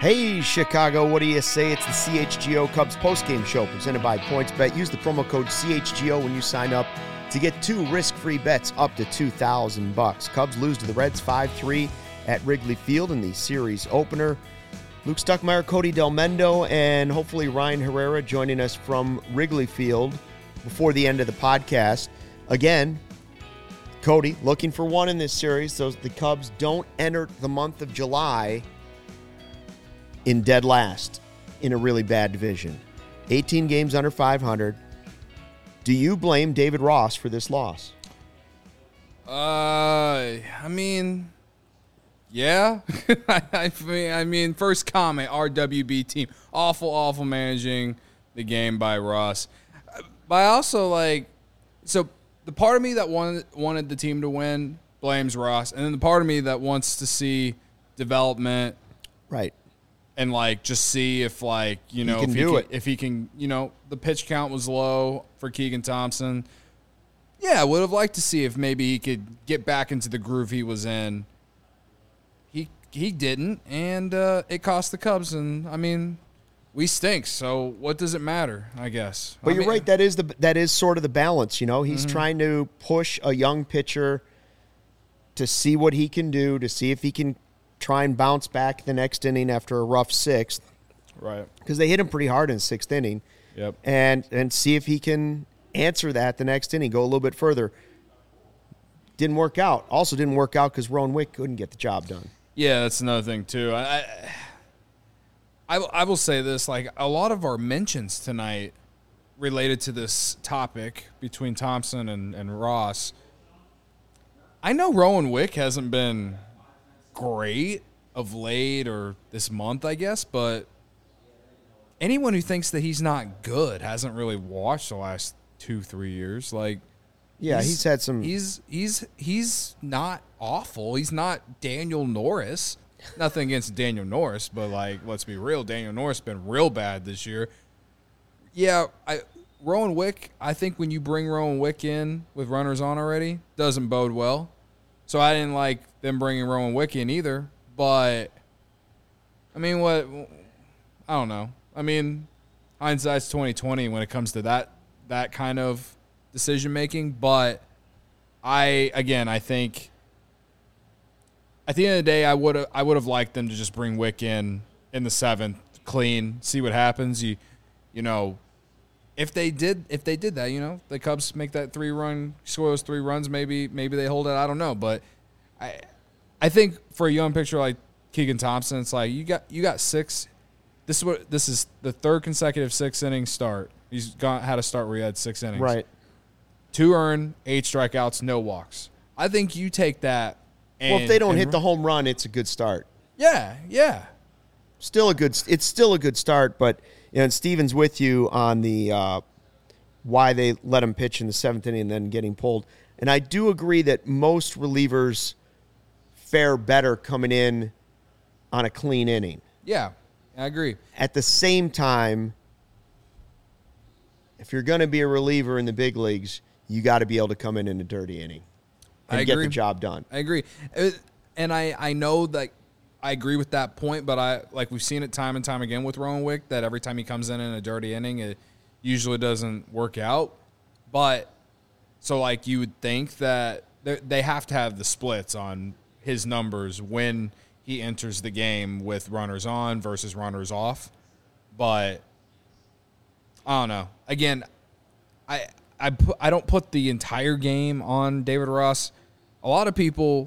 Hey, Chicago, what do you say? It's the CHGO Cubs postgame show presented by PointsBet. Use the promo code CHGO when you sign up to get 2 risk-free bets up to $2,000. Cubs lose to the Reds 5-3 at Wrigley Field in the series opener. Luke Stuckmeyer, Cody Delmendo, and hopefully Ryan Herrera joining us from Wrigley Field before the end of the podcast. Again, Cody, looking for one in this series so the Cubs don't enter the month of July in dead last in a really bad division. 18 games under 500. Do you blame David Ross for this loss? Yeah. I mean, first comment, RWB team. Awful managing the game by Ross. But I also, so the part of me that wanted the team to win blames Ross, and then the part of me that wants to see development. Right. And, just see if, if he can, the pitch count was low for Keegan Thompson. Yeah, I would have liked to see if maybe he could get back into the groove he was in. He didn't, and it cost the Cubs. And, we stink, so what does it matter, I guess? But you're right, that is sort of the balance, He's trying to push a young pitcher to see what he can do, to see if he can try and bounce back the next inning after a rough sixth. Right. Because they hit him pretty hard in the sixth inning. Yep. And see if he can answer that the next inning, go a little bit further. Didn't work out. Also didn't work out because Rowan Wick couldn't get the job done. Yeah, that's another thing, too. I will say this, a lot of our mentions tonight related to this topic between Thompson and Ross. I know Rowan Wick hasn't been great of late or this month, I guess, but anyone who thinks that he's not good hasn't really watched the last 2-3 years. He's had some. He's not awful. He's not Daniel Norris. Nothing against Daniel Norris, but let's be real. Daniel Norris has been real bad this year. Yeah, Rowan Wick. I think when you bring Rowan Wick in with runners on already, doesn't bode well. So I didn't like them bringing Rowan Wick in either. But, what? I don't know. Hindsight's 20/20 when it comes to that kind of decision-making. But, I think at the end of the day, I would have liked them to just bring Wick in the 7th, clean, see what happens. If they did that, the Cubs make that 3-run, score those 3 runs, maybe they hold it. I don't know, but I think for a young pitcher like Keegan Thompson, it's you got 6. This is the 3rd consecutive 6-inning start. He's had a start where he had 6 innings. Right. 2 earned, 8 strikeouts, no walks. I think you take that. If they don't hit the home run, it's a good start. Yeah. It's still a good start, but and Steven's with you on the why they let him pitch in the 7th inning and then getting pulled. And I do agree that most relievers fare better coming in on a clean inning. Yeah, I agree. At the same time, if you're going to be a reliever in the big leagues, you got to be able to come in a dirty inning and get the job done. I agree. And I know that I agree with that point, but we've seen it time and time again with Rowan Wick that every time he comes in a dirty inning, it usually doesn't work out. But so you would think that they have to have the splits on his numbers when he enters the game with runners on versus runners off. But I don't know. Again, I don't put the entire game on David Ross. A lot of people,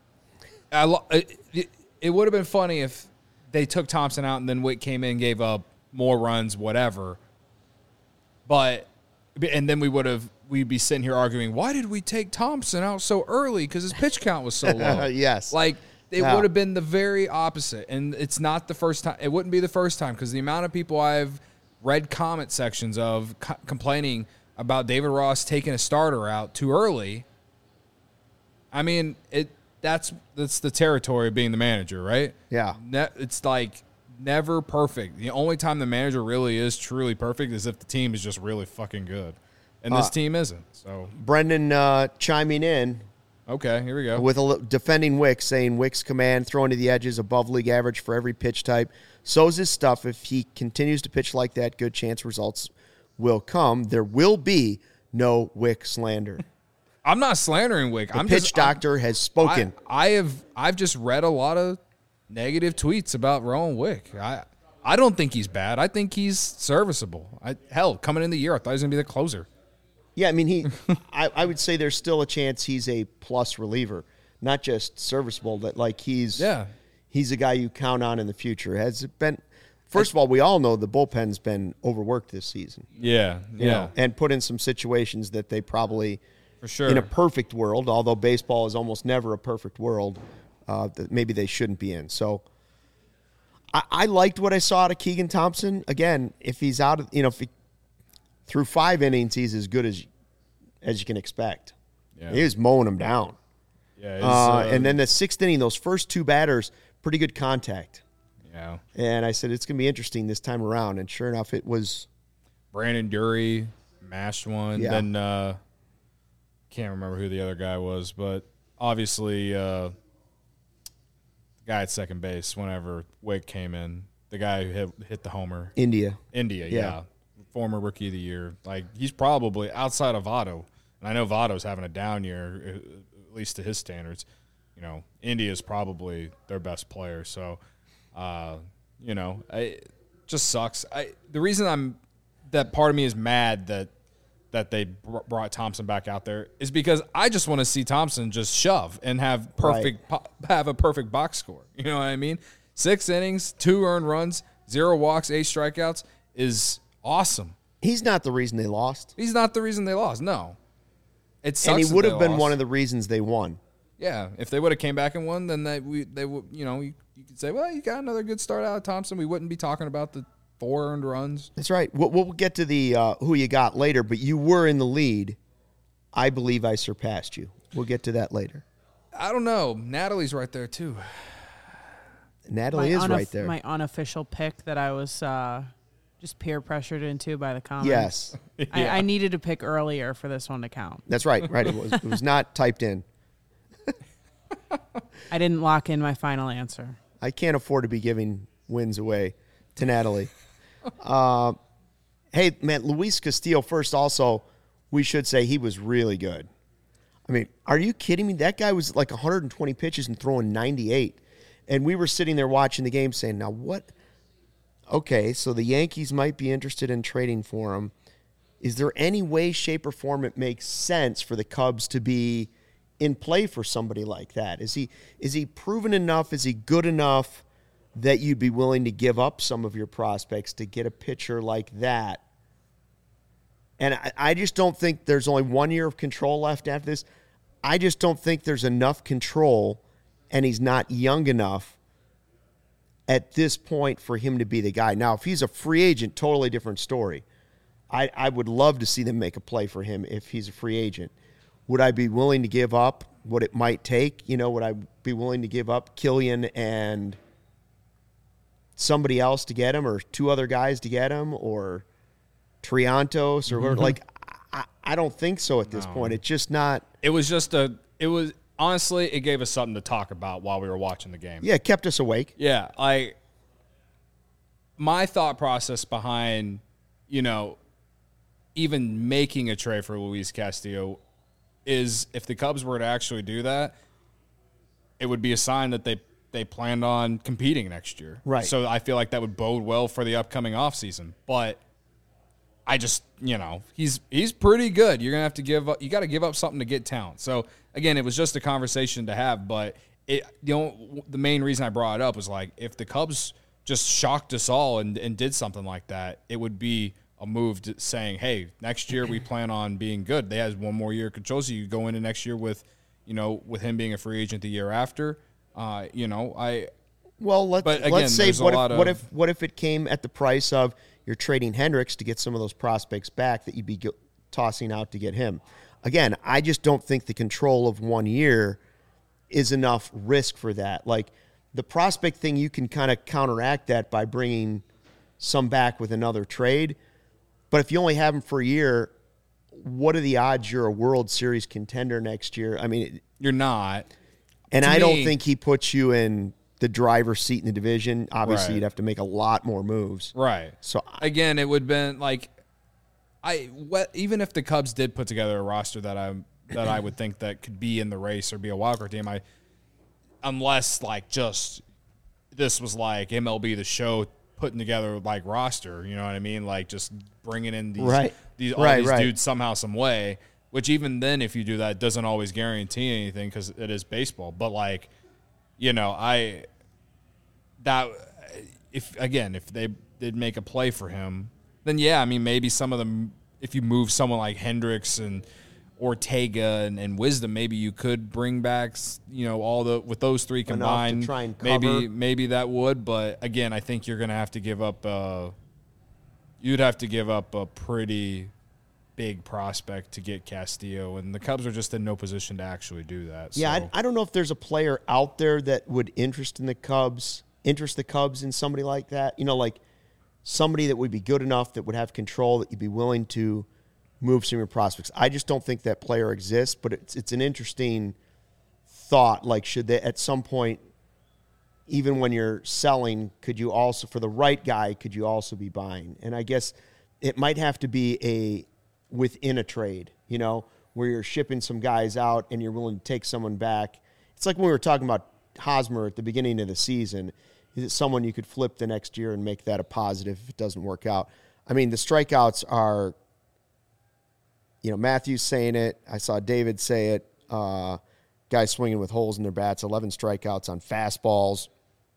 it would have been funny if they took Thompson out and then Wick came in and gave up more runs, whatever. And then we'd be sitting here arguing, why did we take Thompson out so early? Because his pitch count was so low. Yes. It would have been the very opposite. And it's not the first time. It wouldn't be the first time because the amount of people I've read comment sections of complaining about David Ross taking a starter out too early. That's the territory of being the manager, right? Yeah. It's never perfect. The only time the manager really is truly perfect is if the team is just really fucking good. And this team isn't. So Brendan chiming in, Okay, here we go. With defending Wicks, saying Wicks' command, throwing to the edges, above league average for every pitch type. So's his stuff. If he continues to pitch like that, good chance results will come. There will be no Wick slander. I'm not slandering Wick. The pitch doctor has spoken. I've just read a lot of negative tweets about Rowan Wick. I don't think he's bad. I think he's serviceable. Hell, coming in the year, I thought he was going to be the closer. Yeah, I mean, I would say there's still a chance he's a plus reliever, not just serviceable. That like he's a guy you count on in the future. Has it been? First of all, we all know the bullpen's been overworked this season. Yeah, you know, and put in some situations that they probably, for sure, in a perfect world, although baseball is almost never a perfect world, that maybe they shouldn't be in. So I liked what I saw out of Keegan Thompson. Again, if he's out of, if he, through 5 innings, he's as good as you can expect. Yeah. He was mowing them down. Yeah, and then the 6th inning, those first 2 batters, pretty good contact. Yeah. And I said, it's going to be interesting this time around. And sure enough, it was. Brandon Dury mashed one. Yeah. Then can't remember who the other guy was, but obviously the guy at second base whenever Wick came in, the guy who hit the homer. India, yeah. Former Rookie of the Year. Like, he's probably, outside of Votto, and I know Votto's having a down year, at least to his standards, India's probably their best player. So, it just sucks. The reason that part of me is mad that they brought Thompson back out there is because I just want to see Thompson just shove and have a perfect box score. You know what I mean? 6 innings, 2 earned runs, 0 walks, 8 strikeouts is awesome. He's not the reason they lost. He's not the reason they lost. No, it sucks. And he would have been one of the reasons they won. Yeah, if they would have came back and won, then they would. You could say, well, you got another good start out of Thompson. We wouldn't be talking about the 4 earned runs. That's right. We'll get to the who you got later, but you were in the lead. I believe I surpassed you. We'll get to that later. I don't know. Natalie's right there too. Natalie is right there. My unofficial pick that I was just peer pressured into by the comments. Yes. I needed to pick earlier for this one to count. That's right. Right. It was not typed in. I didn't lock in my final answer. I can't afford to be giving wins away to Natalie. Hey, man, Luis Castillo first also, we should say he was really good. I mean, are you kidding me? That guy was like 120 pitches and throwing 98. And we were sitting there watching the game saying, now what? Okay, so the Yankees might be interested in trading for him. Is there any way, shape, or form it makes sense for the Cubs to be in play for somebody like that? Is he proven enough? Is he good enough that you'd be willing to give up some of your prospects to get a pitcher like that? And I just don't think there's only 1 year of control left after this. I just don't think there's enough control, and he's not young enough at this point for him to be the guy. Now, if he's a free agent, totally different story. I would love to see them make a play for him if he's a free agent. Would I be willing to give up what it might take? Would I be willing to give up Killian and somebody else to get him, or 2 other guys to get him, or Triantos, or whatever? Like, I don't think so at this point. It's just not. Honestly, it gave us something to talk about while we were watching the game. Yeah, it kept us awake. Yeah, my thought process behind, even making a trade for Luis Castillo is if the Cubs were to actually do that, it would be a sign that they planned on competing next year. Right. So I feel like that would bode well for the upcoming offseason. But I just, he's pretty good. You're going to have to you got to give up something to get talent. So again, it was just a conversation to have, but the main reason I brought it up was like, if the Cubs just shocked us all and did something like that, it would be a move to saying, hey, next year we plan on being good. They have 1 more year of control, so you go into next year with him being a free agent the year after. Let's say what if it came at the price of you're trading Hendricks to get some of those prospects back that you'd be tossing out to get him. Again, I just don't think the control of 1 year is enough risk for that. Like, the prospect thing, you can kind of counteract that by bringing some back with another trade. But if you only have them for a year, what are the odds you're a World Series contender next year? I mean, You're not. and To I don't me- think he puts you in the driver's seat in the division. Obviously, Right. you'd have to make a lot more moves. Right. So Again, it would have been like even if the Cubs did put together a roster that I would think that could be in the race or be a wildcard team, unless like just this was like MLB The Show putting together like roster, you know what I mean? Like just bringing in these Right. all Right, these right. dudes somehow, some way. Which even then, if you do that, it doesn't always guarantee anything because it is baseball. But like, you know, if they did make a play for him, then yeah, I mean maybe some of them. If you move someone like Hendricks and Ortega and Wisdom, maybe you could bring back, you know, with those three Enough to combined. try and cover. Maybe that would, but again, I think you're going to have to give up. You'd have to give up a pretty big prospect to get Castillo, and the Cubs are just in no position to actually do that. yeah, so. I don't know if there's a player out there that would interest the Cubs in somebody like that. You know, like somebody that would be good enough, that would have control, that you'd be willing to move some of your prospects. I just don't think that player exists, but it's an interesting thought. Like, should they at some point, even when you're selling, could you also, for the right guy, could you also be buying? And I guess it might have to be within a trade, you know, where you're shipping some guys out and you're willing to take someone back. It's like when we were talking about Hosmer at the beginning of the season. Is it someone you could flip the next year and make that a positive if it doesn't work out? I mean, the strikeouts are, you know, Matthews saying it. I saw David say it. Guys swinging with holes in their bats, 11 strikeouts on fastballs.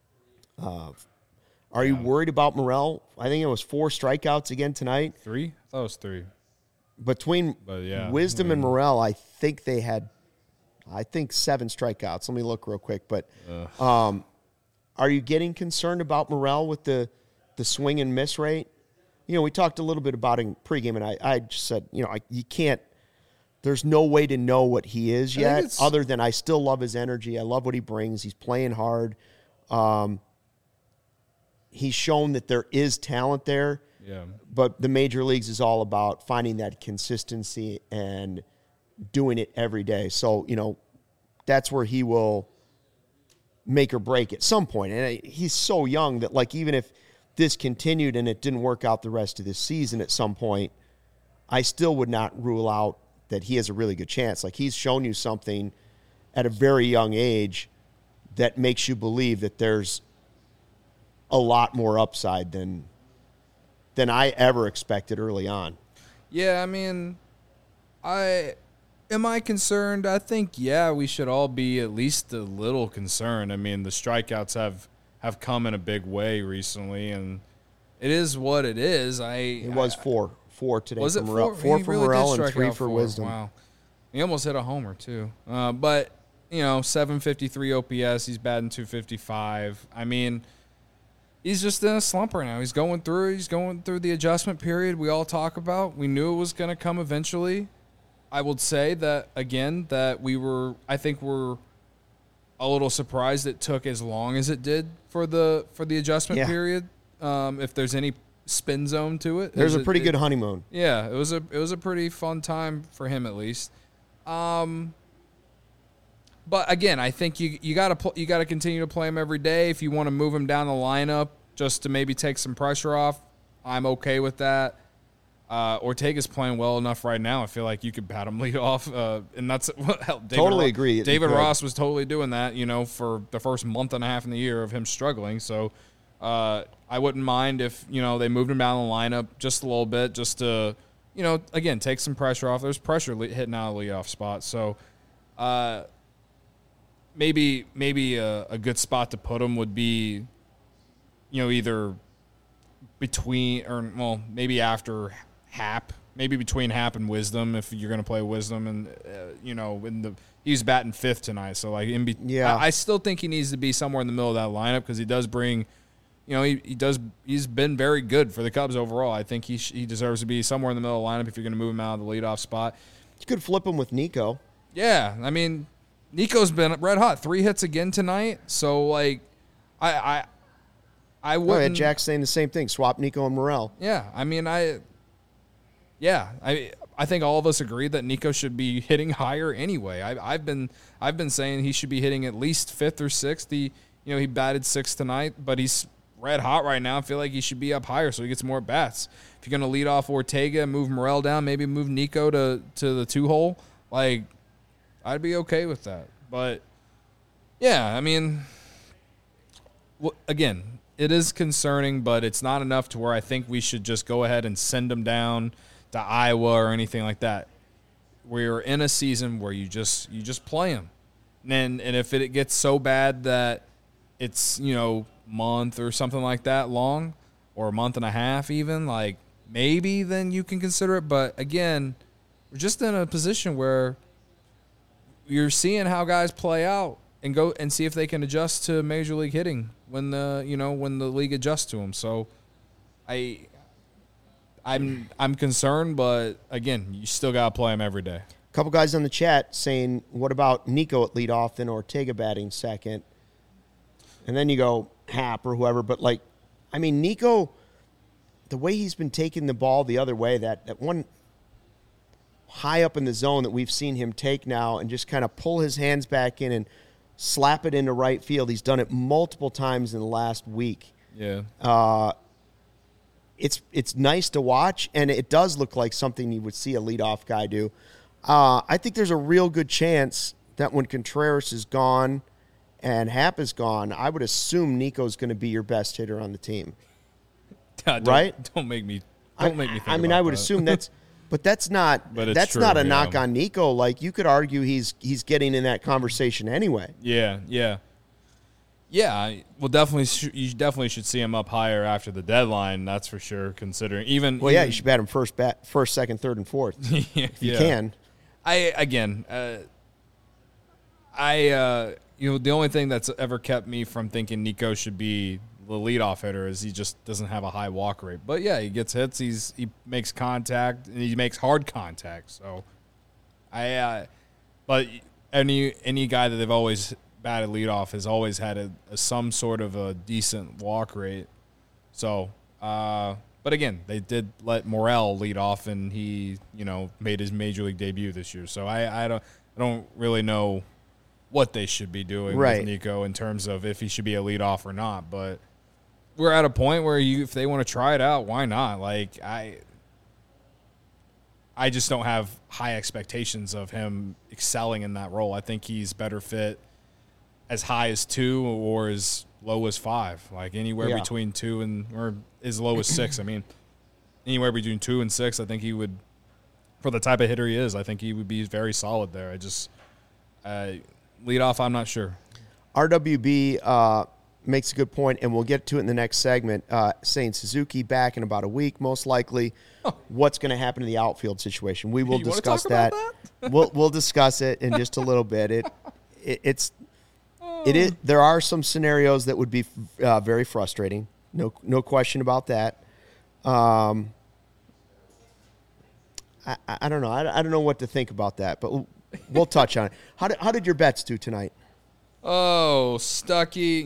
Are you worried about Morel? I think it was 4 strikeouts again tonight. 3? I thought it was 3. Between But yeah, Wisdom and Morel, I think they had, 7 strikeouts. Let me look real quick. But are you getting concerned about Morel with the swing and miss rate? You know, we talked a little bit about it in pregame, and I just said, you know, you can't, there's no way to know what he is yet, other than I still love his energy. I love what he brings. He's playing hard. He's shown that there is talent there. Yeah. But the major leagues is all about finding that consistency and doing it every day. So, you know, that's where he will make or break at some point. And he's so young that, like, even if this continued and it didn't work out the rest of this season at some point, I still would not rule out that he has a really good chance. Like, he's shown you something at a very young age that makes you believe that there's a lot more upside than I ever expected early on. Yeah, I mean, am I concerned? I think, yeah, we should all be at least a little concerned. I mean, the strikeouts have come in a big way recently, and it is what it is. It was 4 today. Was it for Morel. 4? 4 He for really did Morel and strike 3 out for 4. Wisdom. Wow. He almost hit a homer, too. But, you know, 753 OPS. He's batting 255. I mean, he's just in a slump right now. He's going through the adjustment period we all talk about. We knew it was going to come eventually. I would say that, again, that I think we're a little surprised it took as long as it did for the adjustment period. If there's any spin zone to it. There's a pretty good honeymoon. Yeah, it was a pretty fun time for him at least. But again, I think you got to continue to play him every day. If you want to move him down the lineup just to maybe take some pressure off, I'm okay with that. Ortega's playing well enough right now. I feel like you could bat him lead off, and that's Agree. David Ross was totally doing that, you know, for the first month and a half in the year of him struggling. So I wouldn't mind if, you know, they moved him down the lineup just a little bit, just to, you know, again, take some pressure off. There's pressure hitting out of the leadoff spot, so maybe a good spot to put him would be, you know, either between or maybe after Happ, maybe between Happ and Wisdom if you're going to play Wisdom, and you know, he's batting 5th tonight, so like I still think he needs to be somewhere in the middle of that lineup because he does bring, you know, he's been very good for the Cubs overall. I think he deserves to be somewhere in the middle of the lineup if you're going to move him out of the leadoff spot. You could flip him with Nico. Yeah, I mean, Nico's been red hot, 3 hits again tonight, so like I wouldn't. Jack's saying the same thing. Swap Nico and Morel. Yeah, I mean, I think all of us agree that Nico should be hitting higher anyway. I've been saying he should be hitting at least 5th or 6th. He batted 6th tonight, but he's red hot right now. I feel like he should be up higher so he gets more bats. If you're going to lead off Ortega, move Morel down, maybe move Nico to the 2-hole, like, I'd be okay with that. But, yeah, I mean, again, it is concerning, but it's not enough to where I think we should just go ahead and send him down to Iowa or anything like that. We're in a season where you just play him. And if it gets so bad that it's, month or something like that long, or a month and a half even, like, maybe then you can consider it. But again, we're just in a position where you're seeing how guys play out and go and see if they can adjust to Major League hitting when the league adjusts to them. So I'm concerned, but again, you still gotta play him every day. A couple guys on the chat saying, what about Nico at leadoff, then Ortega batting second? And then you go Happ or whoever. But, Nico, the way he's been taking the ball the other way, that one high up in the zone that we've seen him take now and just kind of pull his hands back in and slap it into right field. He's done it multiple times in the last week. Yeah. It's nice to watch, and it does look like something you would see a leadoff guy do. I think there's a real good chance that when Contreras is gone and Happ is gone, I would assume Nico's going to be your best hitter on the team. Right? Don't make me think about I would that. assume that's – but that's not But it's that's true, not a yeah. knock on Nico. Like, you could argue he's getting in that conversation anyway. Yeah. Well, definitely, you definitely should see him up higher after the deadline. That's for sure. Considering even You should bat him first, second, third, and fourth if you can. The only thing that's ever kept me from thinking Nico should be the leadoff hitter is he just doesn't have a high walk rate. But yeah, he gets hits. He makes contact and he makes hard contact. So but any guy that they've always batted leadoff has always had some sort of a decent walk rate. So, but again, they did let Morel lead off, and he, made his major league debut this year. So I don't really know what they should be doing with Nico in terms of if he should be a leadoff or not. But we're at a point where if they want to try it out, why not? Like, I just don't have high expectations of him excelling in that role. I think he's better fit as high as 2 or as low as 5, like anywhere between 2 or as low as 6. I mean, anywhere between 2 and 6, I think he would, for the type of hitter he is, I think he would be very solid there. Lead off, I'm not sure. RWB makes a good point, and we'll get to it in the next segment, saying Suzuki back in about a week, most likely. What's going to happen to the outfield situation? We will discuss that. We'll discuss it in just a little bit. It is. There are some scenarios that would be very frustrating. No question about that. I don't know. I don't know what to think about that, but we'll touch on it. How did your bets do tonight? Oh, Stucky,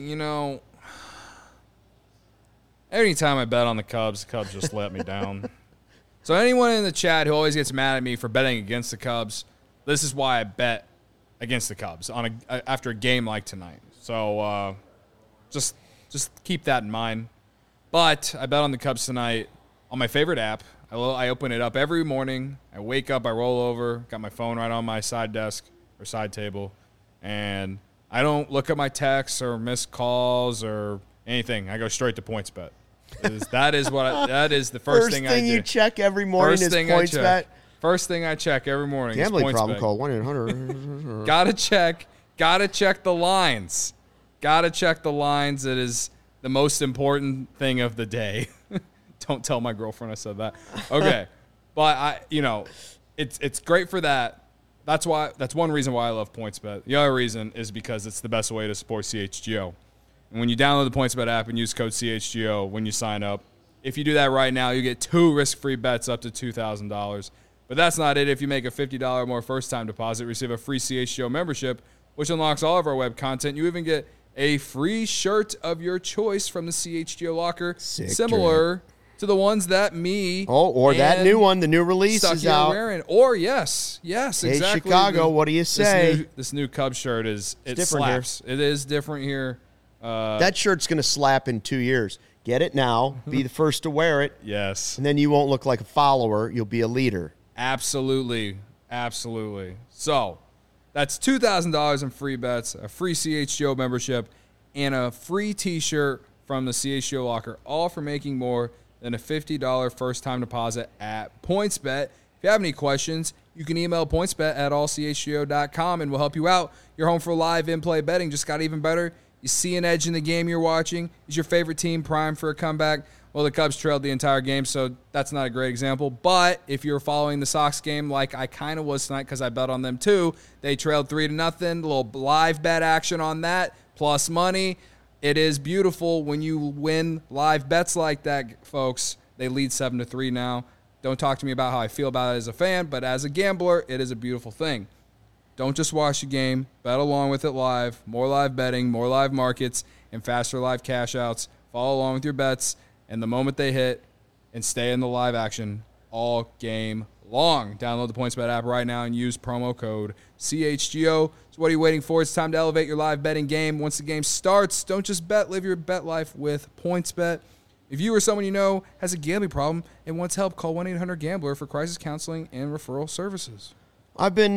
anytime I bet on the Cubs just let me down. So anyone in the chat who always gets mad at me for betting against the Cubs, this is why I bet against the Cubs after a game like tonight. So just keep that in mind. But I bet on the Cubs tonight on my favorite app. I open it up every morning. I wake up, I roll over, got my phone right on my side desk or side table, and I don't look at my texts or missed calls or anything. I go straight to PointsBet. That is the first thing I do. You check every morning is PointsBet. First thing I check every morning Gambling is problem, PointsBet. call 1-800. Gotta check the lines. Gotta check the lines. It is the most important thing of the day. Don't tell my girlfriend I said that. Okay. But it's great for that. That's one reason why I love PointsBet. The other reason is because it's the best way to support CHGO. And when you download the PointsBet app and use code CHGO when you sign up, if you do that right now, you get 2 risk-free bets up to $2,000. But that's not it. If you make a $50 or more first-time deposit, receive a free CHGO membership, which unlocks all of our web content. You even get a free shirt of your choice from the CHGO locker, similar to the ones that me or that and new one, the new release Stucky is out. are wearing. Or yes, exactly. Hey, Chicago, what do you say? This new Cubs shirt it different slaps. It is different here. That shirt's going to slap in 2 years. Get it now. Be the first to wear it. Yes. And then you won't look like a follower. You'll be a leader. Absolutely. So that's $2,000 in free bets, a free CHGO membership, and a free T-shirt from the CHGO locker, all for making more than a $50 first-time deposit at PointsBet. If you have any questions, you can email pointsbet@allchgo.com, and we'll help you out. You're home for live in-play betting. Just got even better. You see an edge in the game you're watching. Is your favorite team primed for a comeback? Well, the Cubs trailed the entire game, so that's not a great example. But if you're following the Sox game like I kind of was tonight because I bet on them too, they trailed 3-0. A little live bet action on that, plus money. It is beautiful when you win live bets like that, folks. They lead 7-3 now. Don't talk to me about how I feel about it as a fan, but as a gambler, it is a beautiful thing. Don't just watch the game. Bet along with it live. More live betting, more live markets, and faster live cash outs. Follow along with your bets, and the moment they hit, and stay in the live action all game long. Download the PointsBet app right now and use promo code CHGO. So what are you waiting for? It's time to elevate your live betting game. Once the game starts, don't just bet. Live your bet life with PointsBet. If you or someone you know has a gambling problem and wants help, call 1-800-GAMBLER for crisis counseling and referral services. I've been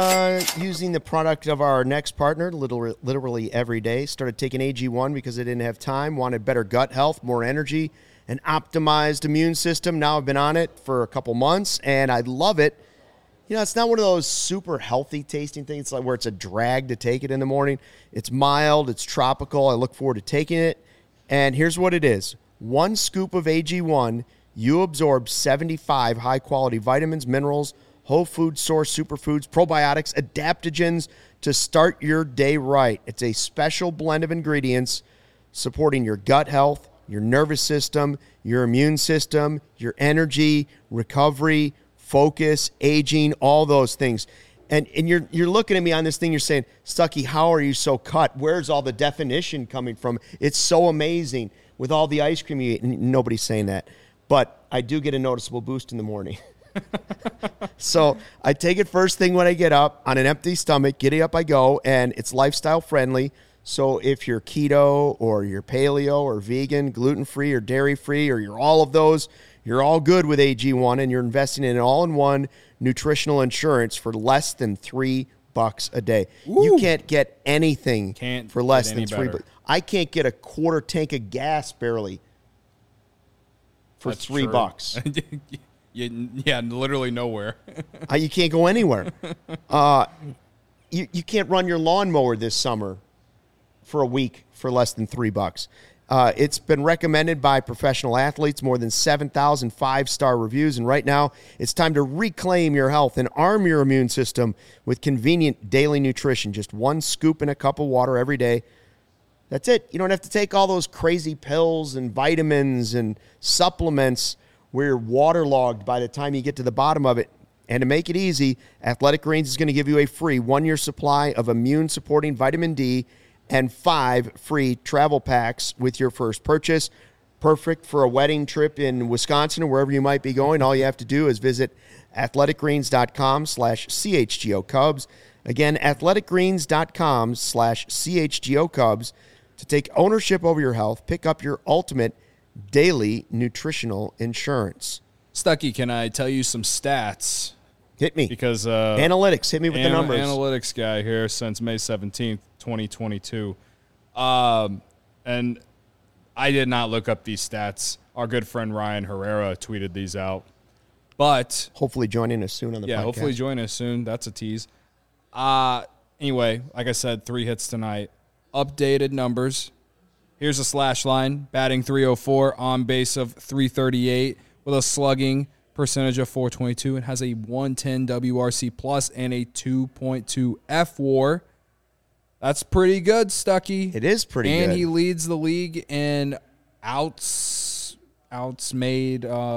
using the product of our next partner literally every day. Started taking AG1 because I didn't have time, wanted better gut health, more energy, an optimized immune system. Now I've been on it for a couple months, and I love it. You know, it's not one of those super healthy tasting things like where it's a drag to take it in the morning. It's mild. It's tropical. I look forward to taking it. And here's what it is. 1 scoop of AG1, you absorb 75 high-quality vitamins, minerals, whole food source superfoods, probiotics, adaptogens to start your day right. It's a special blend of ingredients supporting your gut health, your nervous system, your immune system, your energy, recovery, focus, aging, all those things. And you're looking at me on this thing, you're saying, Stucky, how are you so cut? Where's all the definition coming from? It's so amazing with all the ice cream you eat. And nobody's saying that. But I do get a noticeable boost in the morning. So I take it first thing when I get up on an empty stomach, giddy up I go, and it's lifestyle friendly. So if you're keto or you're paleo or vegan, gluten-free or dairy-free, or you're all of those, you're all good with AG1, and you're investing in an all-in-one nutritional insurance for less than $3 a day. Woo. You can't get anything for less than $3. $3. I can't get a quarter tank of gas barely for That's $3. Yeah, literally nowhere. You can't go anywhere. You can't run your lawnmower this summer for a week for less than $3. It's been recommended by professional athletes, more than 7,000 five-star reviews, and right now it's time to reclaim your health and arm your immune system with convenient daily nutrition. Just 1 scoop in a cup of water every day. That's it. You don't have to take all those crazy pills and vitamins and supplements where you're waterlogged by the time you get to the bottom of it. And to make it easy, Athletic Greens is going to give you a free 1-year supply of immune-supporting vitamin D and 5 free travel packs with your first purchase. Perfect for a wedding trip in Wisconsin or wherever you might be going. All you have to do is visit athleticgreens.com/CHGO Cubs. Again, athleticgreens.com/CHGO Cubs to take ownership over your health. Pick up your ultimate daily nutritional insurance. Stucky, can I tell you some stats? Hit me. Because analytics, hit me with the numbers. Analytics guy here since May 17th, 2022. And I did not look up these stats. Our good friend Ryan Herrera tweeted these out. But hopefully joining us soon on the podcast. Yeah, hopefully join us soon. That's a tease. Anyway, like I said, 3 hits tonight. Updated numbers. Here's a slash line. Batting .304, on base of .338, with a slugging percentage of .422, and has a 110 WRC plus and a 2.2 FWAR. That's pretty good, Stucky. It is pretty good. And he leads the league in outs made.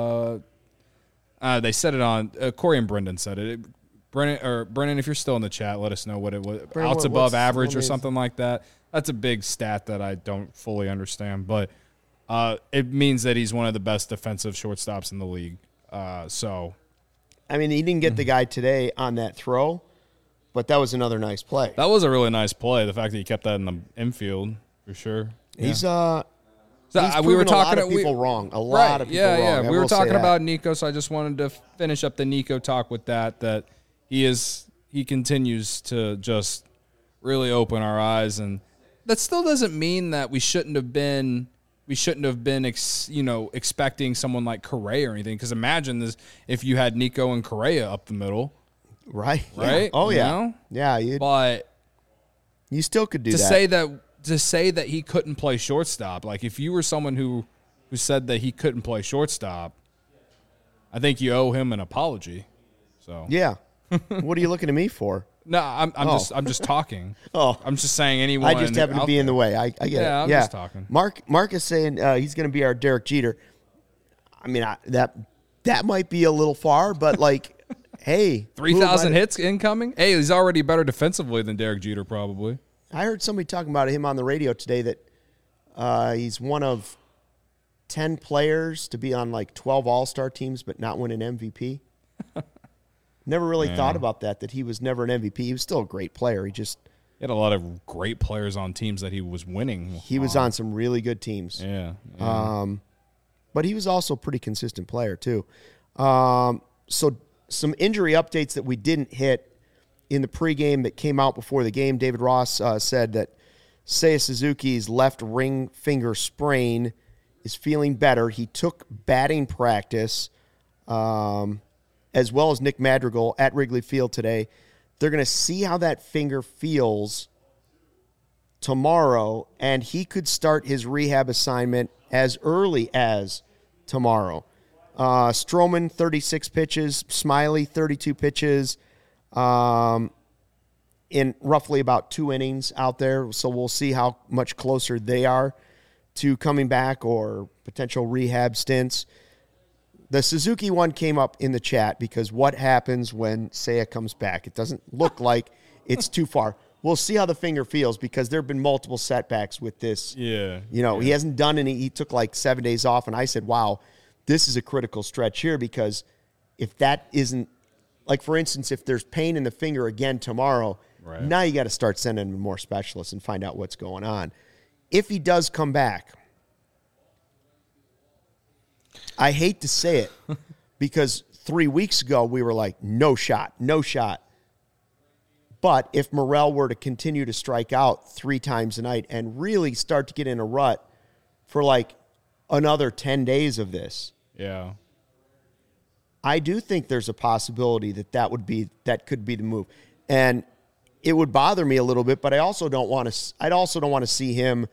They said it on Corey and Brendan said it. Brendan, if you're still in the chat, let us know what it was. Brendan, Outs above average or something like that. That's a big stat that I don't fully understand. But it means that he's one of the best defensive shortstops in the league. So, I mean, he didn't get the guy today on that throw, but that was another nice play. that was a really nice play. The fact that he kept that in the infield, for sure. He's we were proven talking a lot of people wrong. A lot of people wrong. Yeah. I We were will say talking that. about Nico, so I just wanted to finish up the Nico talk with that he continues to just really open our eyes, and that still doesn't mean that we shouldn't have been expecting someone like Correa or anything. Because imagine this if you had Nico and Correa up the middle, Right? right? Yeah. Oh, You yeah. know? Yeah, But you still could do to that. say that he couldn't play shortstop, like if you were someone who said that he couldn't play shortstop, I think you owe him an apology. So Yeah. What are you looking at me for? no, I'm just talking. Oh. I'm just saying anyone. I just happen to out be in the there. way. I get it. Yeah, I'm just talking. Mark is saying he's going to be our Derek Jeter. I mean, that might be a little far, but like, hey, 3,000 hits incoming. Hey, he's already better defensively than Derek Jeter, probably. I heard somebody talking about him on the radio today that he's one of 10 players to be on like 12 All-Star teams but not win an MVP. Never really thought about that he was never an MVP. He was still a great player. He had a lot of great players on teams that he was winning. He was on some really good teams. Yeah. But he was also a pretty consistent player too. So some injury updates that we didn't hit in the pregame that came out before the game. David Ross said that Seiya Suzuki's left ring finger sprain is feeling better. He took batting practice, as well as Nick Madrigal at Wrigley Field today. They're going to see how that finger feels tomorrow, and he could start his rehab assignment as early as tomorrow. Stroman, 36 pitches. Smiley, 32 pitches. In roughly about 2 innings out there. So we'll see how much closer they are to coming back or potential rehab stints. The Suzuki one came up in the chat because what happens when Seiya comes back? It doesn't look like it's too far. We'll see how the finger feels because there have been multiple setbacks with this. Yeah. He hasn't done any. He took like 7 days off, and I said, wow, this is a critical stretch here because if that isn't, like for instance, if there's pain in the finger again tomorrow, right, now you got to start sending him more specialists and find out what's going on. If he does come back, I hate to say it because 3 weeks ago we were like, no shot. But if Morel were to continue to strike out 3 times a night and really start to get in a rut for like another 10 days of this, Yeah. I do think there's a possibility that could be the move. And it would bother me a little bit, but I also don't want to see him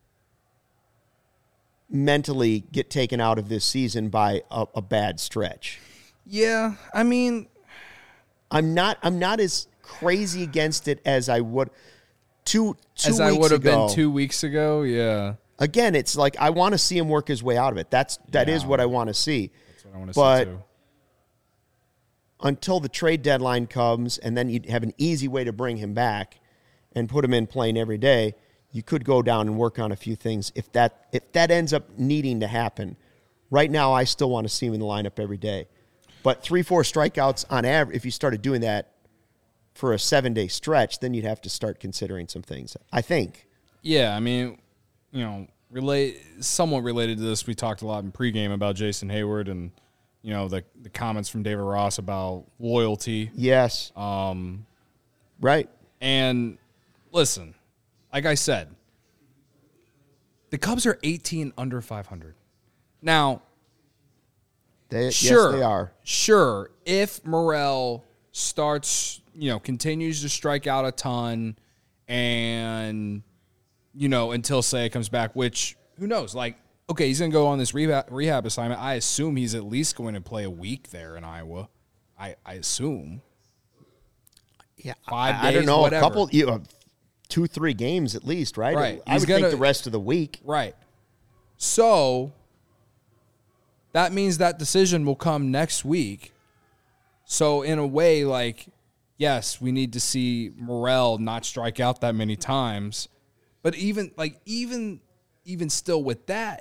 mentally get taken out of this season by a bad stretch. Yeah. I mean, I'm not as crazy against it as I would two as weeks I would have ago. been 2 weeks ago. Yeah. Again, it's like I want to see him work his way out of it. That is what I want to see. That's what I want to But see too. Until the trade deadline comes, and then you have an easy way to bring him back and put him in playing every day, you could go down and work on a few things if that ends up needing to happen. Right now, I still want to see him in the lineup every day. But 3-4 strikeouts on average, if you started doing that for a 7-day stretch, then you'd have to start considering some things, I think. Yeah, I mean, somewhat related to this, we talked a lot in pregame about Jason Hayward and, the comments from David Ross about loyalty. Yes. Right. And listen, like I said, the Cubs are 18 under 500. Now, Yes, they are. Sure, if Morel starts, continues to strike out a ton and, until Seiya comes back, which, who knows? Like, okay, he's going to go on this rehab assignment. I assume he's at least going to play a week there in Iowa. I assume. Yeah, 5 days, I don't know, whatever. a couple, 2-3 games at least, right? Right. I would think the rest of the week. Right. So that means that decision will come next week. So in a way, like, yes, we need to see Morel not strike out that many times. But even still with that,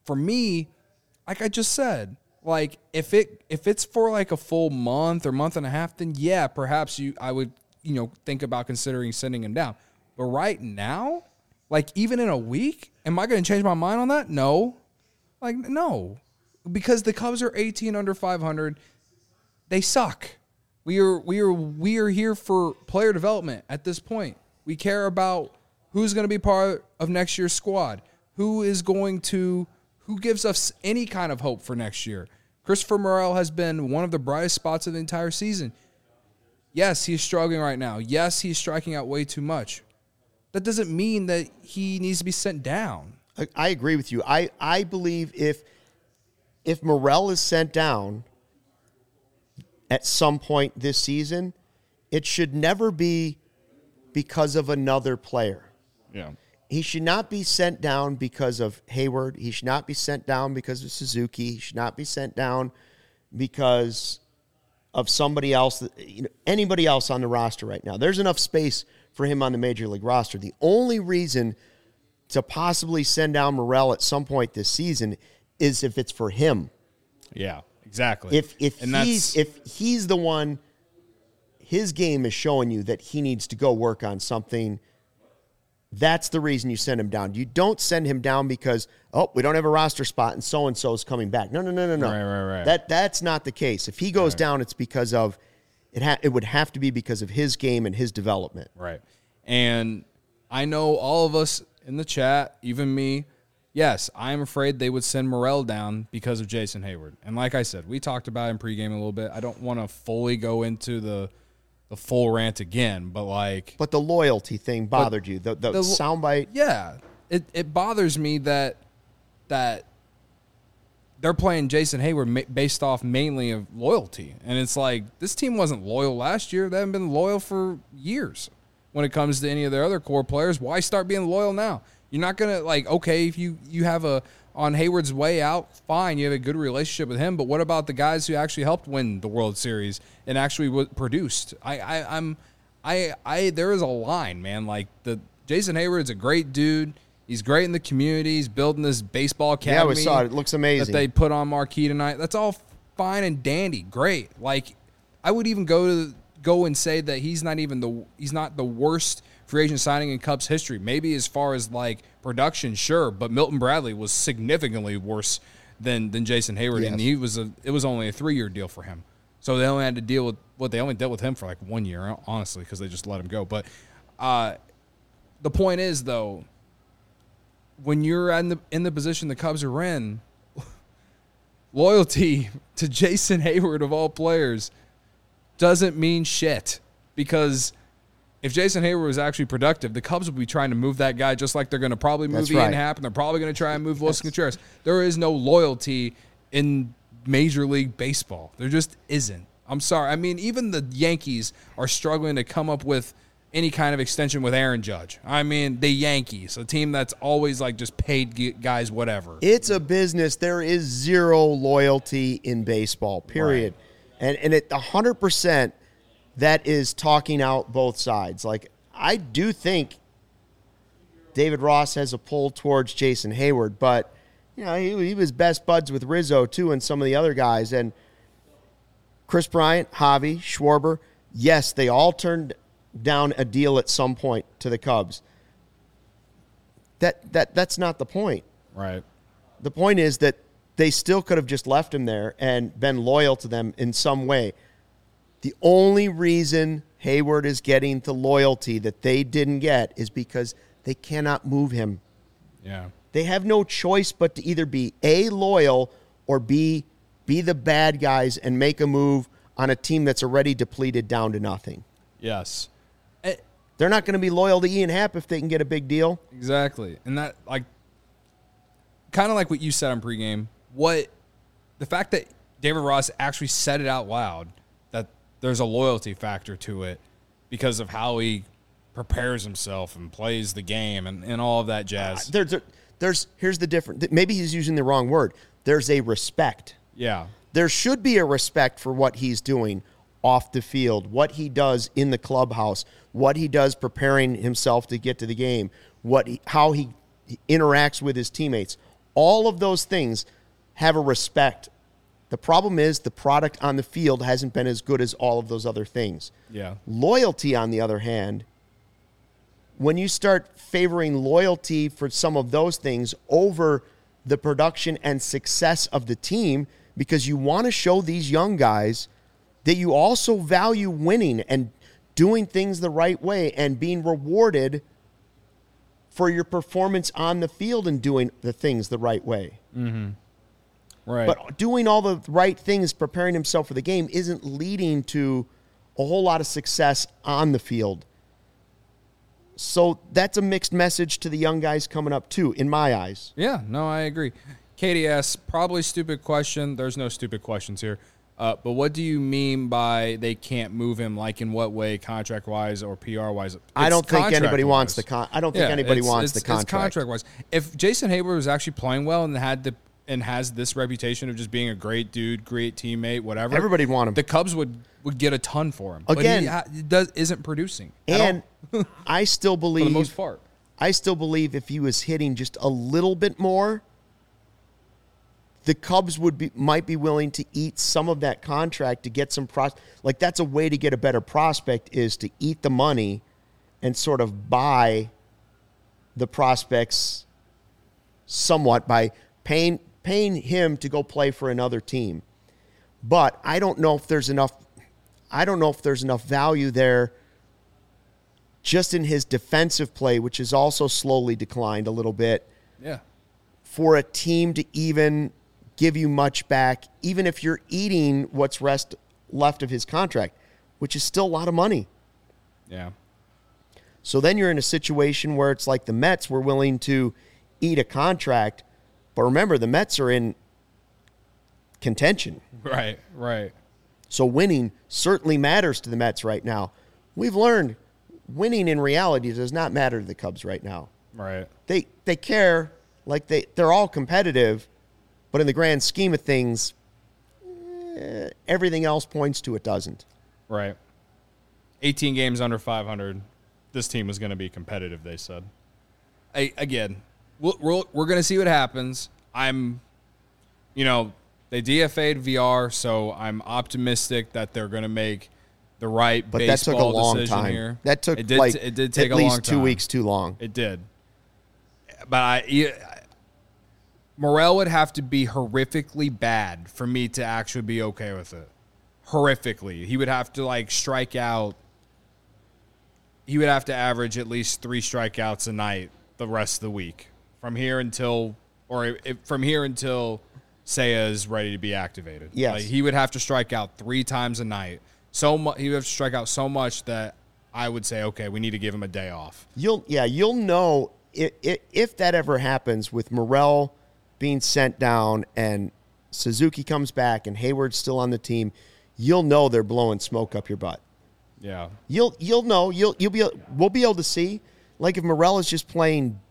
for me, like I just said, like if it's for like a full month or month and a half, then yeah, perhaps I would think about considering sending him down. But right now, like even in a week, am I going to change my mind on that? No, like no, because the Cubs are 18 under 500. They suck. We are here for player development at this point. We care about who's going to be part of next year's squad, who gives us any kind of hope for next year. Christopher Morel has been one of the brightest spots of the entire season. Yes, he's struggling right now. Yes, he's striking out way too much. That doesn't mean that he needs to be sent down. I agree with you. I believe if Morel is sent down at some point this season, it should never be because of another player. Yeah. He should not be sent down because of Hayward. He should not be sent down because of Suzuki. He should not be sent down because of somebody else, anybody else on the roster right now. There's enough space for him on the Major League roster. The only reason to possibly send down Morel at some point this season is if it's for him. Yeah. Exactly. If he's the one, his game is showing you that he needs to go work on something. That's the reason you send him down. You don't send him down because, we don't have a roster spot and so-and-so is coming back. No. Right. That's not the case. If he goes down, it's because of, it would have to be because of his game and his development. Right. And I know all of us in the chat, even me, yes, I'm afraid they would send Morel down because of Jason Hayward. And like I said, we talked about it in pregame a little bit. I don't want to fully go into the full rant again, but like... But the loyalty thing bothered you, the soundbite? Yeah. It bothers me that they're playing Jason Hayward based off mainly of loyalty. And it's like, this team wasn't loyal last year. They haven't been loyal for years when it comes to any of their other core players. Why start being loyal now? You're not going to, okay, if you have on Hayward's way out, fine, you have a good relationship with him, but what about the guys who actually helped win the World Series and actually produced? There is a line, man. Like, Jason Hayward's a great dude. He's great in the community. He's building this baseball academy. Yeah, we saw it. It looks amazing. That they put on marquee tonight. That's all fine and dandy. Great. Like, I would even go and say that he's not the worst free agent signing in Cubs history. Maybe as far as like production, sure, but Milton Bradley was significantly worse than Jason Hayward, yes. And it was only a 3-year deal for him. So they only had to deal with they only dealt with him for like 1 year, honestly, because they just let him go. But the point is, though, when you're in the position the Cubs are in, loyalty to Jason Hayward of all players doesn't mean shit, because if Jason Hayward was actually productive, the Cubs would be trying to move that guy just like they're going to probably move Ian Happ, and they're probably going to try and move Wilson Contreras. There is no loyalty in Major League Baseball. There just isn't. I'm sorry. I mean, even the Yankees are struggling to come up with any kind of extension with Aaron Judge. I mean, the Yankees, a team that's always like just paid guys whatever. It's a business. There is zero loyalty in baseball, period. Right. And at 100%, that is talking out both sides. Like, I do think David Ross has a pull towards Jason Hayward, but he was best buds with Rizzo too, and some of the other guys. And Chris Bryant, Javi, Schwarber, yes, they all turned down a deal at some point to the Cubs. That's not the point. Right. The point is that they still could have just left him there and been loyal to them in some way. The only reason Hayward is getting the loyalty that they didn't get is because they cannot move him. Yeah. They have no choice but to either be A, loyal, or B, be the bad guys and make a move on a team that's already depleted down to nothing. Yes. They're not going to be loyal to Ian Happ if they can get a big deal. Exactly. And that, like, kind of like what you said on pregame, the fact that David Ross actually said it out loud, that there's a loyalty factor to it because of how he prepares himself and plays the game and all of that jazz. Here's the difference. Maybe he's using the wrong word. There's a respect. Yeah. There should be a respect for what he's doing off the field, what he does in the clubhouse, what he does preparing himself to get to the game, how he interacts with his teammates. All of those things have a respect. The problem is the product on the field hasn't been as good as all of those other things. Yeah. Loyalty, on the other hand, when you start favoring loyalty for some of those things over the production and success of the team, because you want to show these young guys that you also value winning and doing things the right way and being rewarded for your performance on the field and doing the things the right way. Mm-hmm. Right. But doing all the right things, preparing himself for the game, isn't leading to a whole lot of success on the field. So that's a mixed message to the young guys coming up, too, in my eyes. Yeah, no, I agree. Katie asks, probably stupid question. There's no stupid questions here. But what do you mean by they can't move him? Like in what way, contract-wise or PR-wise? I don't think anybody wants the contract. It's contract-wise. If Jason Hayward was actually playing well and has this reputation of just being a great dude, great teammate, whatever, everybody want him. The Cubs would get a ton for him. Again, but he isn't producing. And I still believe, for the most part, if he was hitting just a little bit more, the Cubs might be willing to eat some of that contract to get some like that's a way to get a better prospect, is to eat the money and sort of buy the prospects somewhat by paying him to go play for another team. But I don't know if there's enough value there just in his defensive play, which has also slowly declined a little bit. Yeah. For a team to even give you much back, even if you're eating what's left of his contract, which is still a lot of money. Yeah. So then you're in a situation where it's like the Mets were willing to eat a contract, but remember, the Mets are in contention. Right. So winning certainly matters to the Mets right now. We've learned winning in reality does not matter to the Cubs right now. Right. They care, like they're all competitive, but in the grand scheme of things, everything else points to it doesn't. Right. 18 games under 500. This team was going to be competitive, they said. Again, we're going to see what happens. They DFA'd VR, so I'm optimistic that they're going to make the right but baseball that took a long decision time. here. That took it did take at a least long time. 2 weeks too long. It did. But Morel would have to be horrifically bad for me to actually be okay with it. Horrifically. He would have to strike out. He would have to average at least 3 strikeouts a night the rest of the week. From here until Seiya is ready to be activated. Yes. He would have to strike out 3 times a night. He would have to strike out so much that I would say, okay, we need to give him a day off. You'll know if that ever happens with Morel being sent down and Suzuki comes back and Hayward's still on the team, you'll know they're blowing smoke up your butt. Yeah. You'll know. We'll be able to see. Like if Morel's playing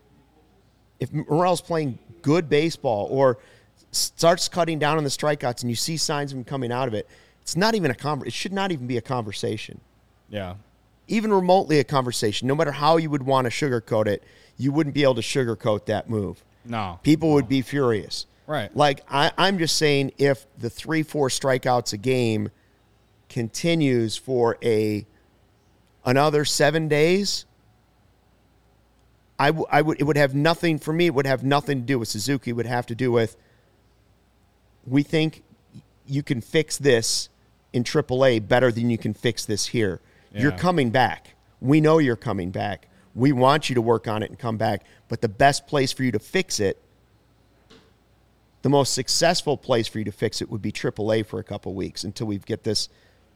good baseball or starts cutting down on the strikeouts and you see signs of him coming out of it, it should not even be a conversation. Yeah. Even remotely a conversation. No matter how you would want to sugarcoat it, you wouldn't be able to sugarcoat that move. No. People would be furious. Right. I'm just saying, if the 3-4 strikeouts a game continues for another 7 days, it would have nothing for me. It would have nothing to do with Suzuki. It would have to do with, we think you can fix this in AAA better than you can fix this here. Yeah. You're coming back. We know you're coming back. We want you to work on it and come back. But the best place for you to fix it, the most successful place for you to fix it would be AAA for a couple weeks until we get this.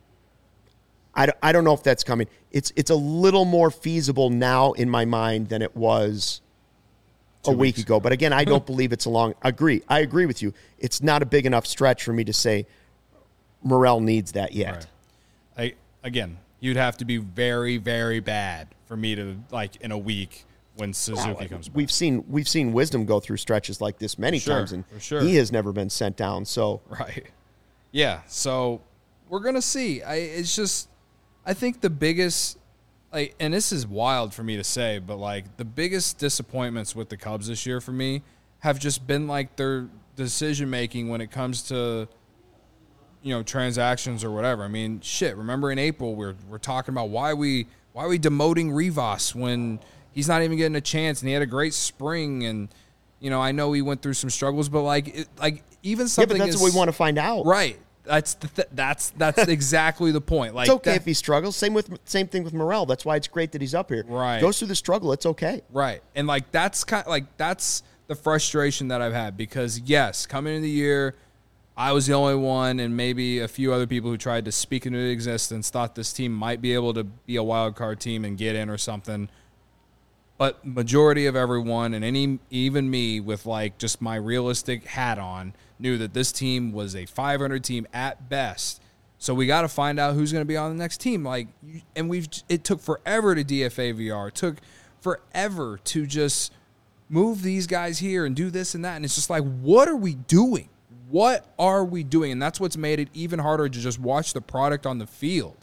I don't know if that's coming. It's a little more feasible now in my mind than it was a week ago. But again, I don't believe it's a long. I agree with you. It's not a big enough stretch for me to say Morel needs that yet. Right. Again, you'd have to be very, very bad for me to in a week when Suzuki comes back. We've seen Wisdom go through stretches like this many times, and he has never been sent down. So right, yeah. So we're gonna see. I think the biggest, and this is wild for me to say, but the biggest disappointments with the Cubs this year for me have just been like their decision making when it comes to, transactions or whatever. I mean, shit. Remember in April we're talking about why we demoting Rivas when he's not even getting a chance, and he had a great spring, and I know he went through some struggles, but even something. Yeah, but that's what we want to find out, right? That's exactly the point. Like, it's okay if he struggles. Same thing with Morel. That's why it's great that he's up here. Right, goes through the struggle. It's okay. Right, and that's that's the frustration that I've had, because yes, coming into the year, I was the only one, and maybe a few other people who tried to speak into existence thought this team might be able to be a wild card team and get in or something. But majority of everyone, and even me with just my realistic hat on, knew that this team was a 500 team at best. So we got to find out who's going to be on the next team. It took forever to DFA VR. It took forever to just move these guys here and do this and that. And it's just what are we doing? What are we doing? And that's what's made it even harder to just watch the product on the field.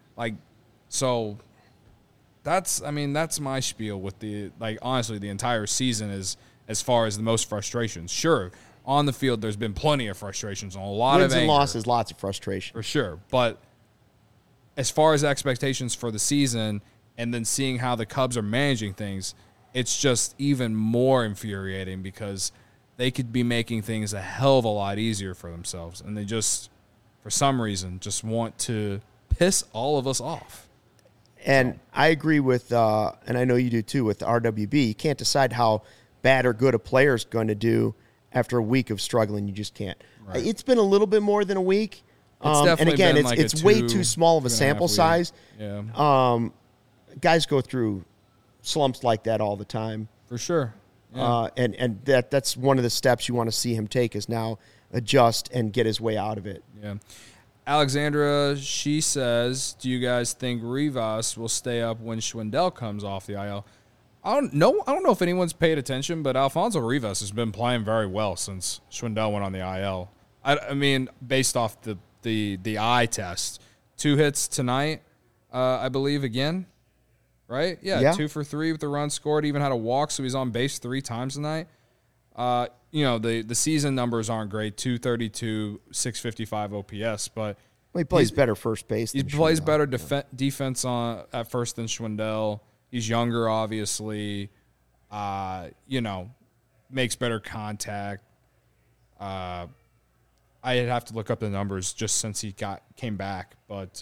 So that's my spiel with honestly, the entire season is as far as the most frustrations. Sure, on the field, there's been plenty of frustrations, and a lot wins of and anger, losses, lots of frustration for sure. But as far as expectations for the season, and then seeing how the Cubs are managing things, it's just even more infuriating, because they could be making things a hell of a lot easier for themselves, and they just, for some reason, just want to piss all of us off. And I agree with, and I know you do too, with RWB. You can't decide how bad or good a player is going to do after a week of struggling. You just can't. Right. It's been a little bit more than a week. And again, it's way too small of a sample size. Yeah. Guys go through slumps like that all the time. For sure. Yeah. And that's one of the steps you want to see him take, is now adjust and get his way out of it. Yeah. Alexandra, she says, do you guys think Rivas will stay up when Schwindel comes off the IL? I don't know if anyone's paid attention, but Alfonso Rivas has been playing very well since Schwindel went on the IL. I mean, based off the eye test, 2 hits tonight, I believe, again, right? Yeah, 2 for 3 with the run scored. Even had a walk, so he's on base 3 times tonight. The season numbers aren't great, 232, 655 OPS, but he plays better first base. He plays better defense at first than Schwindel. He's younger, obviously. Makes better contact. I'd have to look up the numbers just since he came back, but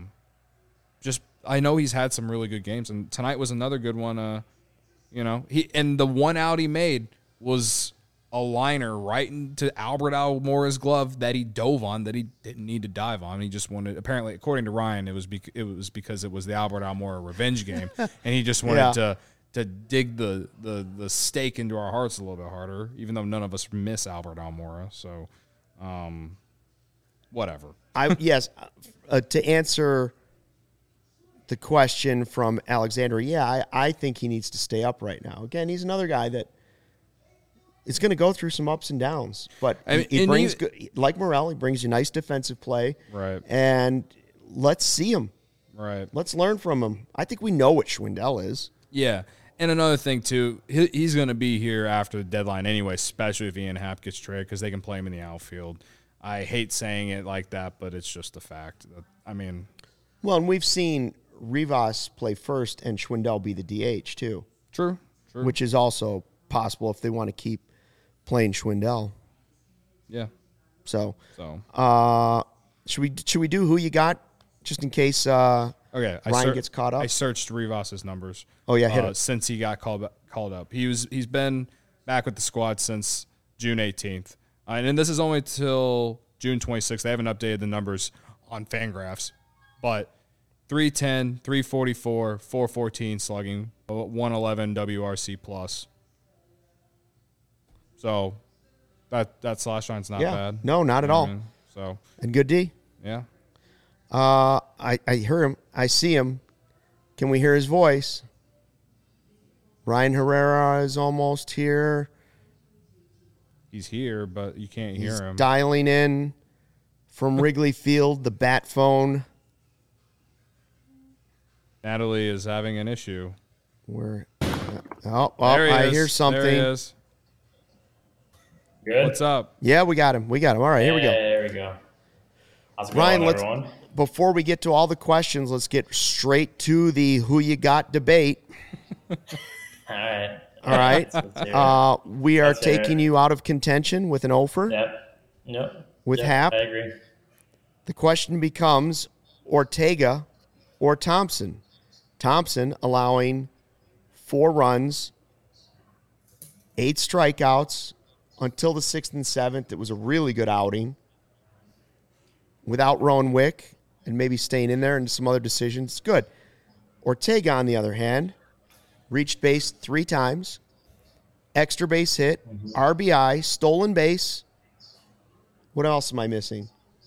I know he's had some really good games, and tonight was another good one. The one out he made was a liner right into Albert Almora's glove that he dove on, that he didn't need to dive on. He just wanted, apparently, according to Ryan, it was because it was the Albert Almora revenge game, and he just wanted to dig the stake into our hearts a little bit harder, even though none of us miss Albert Almora. So, whatever. To answer the question from Alexander, I think he needs to stay up right now. Again, he's another guy that is going to go through some ups and downs, but he brings, like Morel, he brings you nice defensive play. Right. And let's see him. Right. Let's learn from him. I think we know what Schwindel is. Yeah. And another thing, too, he's going to be here after the deadline anyway, especially if Ian Happ gets traded, because they can play him in the outfield. I hate saying it like that, but it's just a fact. Well, and we've seen Rivas play first and Schwindel be the DH, too. True. Which is also possible if they want to keep playing Schwindel. Yeah. So should we do who you got, just in case Ryan gets caught up? I searched Rivas's numbers. Oh yeah, hit it. Since he got called up. He's been back with the squad since June 18th. And then this is only till June 26th. They haven't updated the numbers on Fangraphs, but 310, 344, 414 slugging, 111 WRC plus. So that slash line's not bad. No, not at all. So, and good D. Yeah. I hear him. I see him. Can we hear his voice? Ryan Herrera is almost here. He's here, but you can't hear him. He's dialing in from Wrigley Field, the bat phone. Natalie is having an issue. I hear something. There he is. Good. What's up? Yeah, we got him. All right, here we go. There we go. How's it Ryan, going, everyone? before we get to all the questions, let's get straight to the who you got debate. All right. All right. Let's hear it. We are Let's hear taking it. you out of contention with an offer. Yep. With Yep, Hap. I agree. The question becomes Ortega or Thompson. Thompson allowing 4 runs, 8 strikeouts until the 6th and 7th. It was a really good outing. Without Rowan Wick and maybe staying in there and some other decisions, good. Ortega, on the other hand, reached base 3 times, extra base hit, RBI, stolen base. What else am I missing?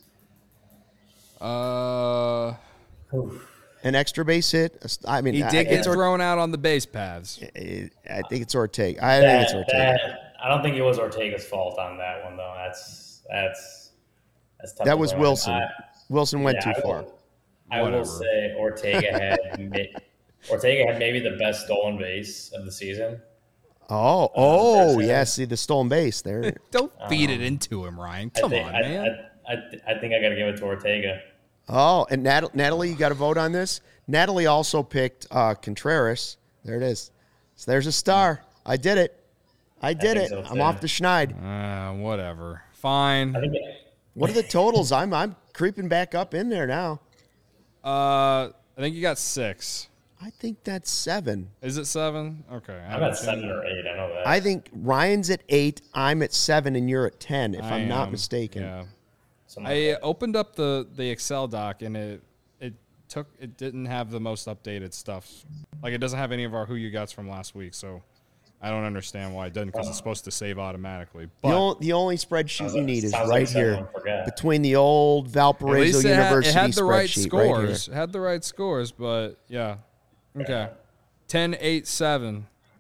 An extra base hit. I mean, He did get it's thrown out on the base paths. I think it's Ortega. I think it's Ortega. I don't think it was Ortega's fault on that one, though. That's tough. That to was blame. Wilson. Wilson went too far. I will Whatever. say Ortega had maybe the best stolen base of the season. Oh, yeah. See the stolen base there. Don't feed it into him, Ryan. Come on, man. I think I got to give it to Ortega. Oh, and Natalie, you got to vote on this. Natalie also picked Contreras. There it is. So there's a star. I did it. I did think it. so, I'm too. off the schneid. Whatever. Fine. I think What are the totals? I'm creeping back up in there now. I think you got 6. I think that's 7. Is it 7? Okay. I'm at 7 or 8. I know that. I think Ryan's at 8. I'm at 7, and you're at 10. If I'm not mistaken. Yeah. Something like I that. opened up the Excel doc and it didn't have the most updated stuff. Like it doesn't have any of our who you gots from last week, so I don't understand why it doesn't because it's supposed to save automatically. But The only spreadsheet you need is sounds right like here someone forgot. between the old at Valparaiso least it University had the right spreadsheet right here. scores. It had the right scores, but yeah. Okay. 10-8-7.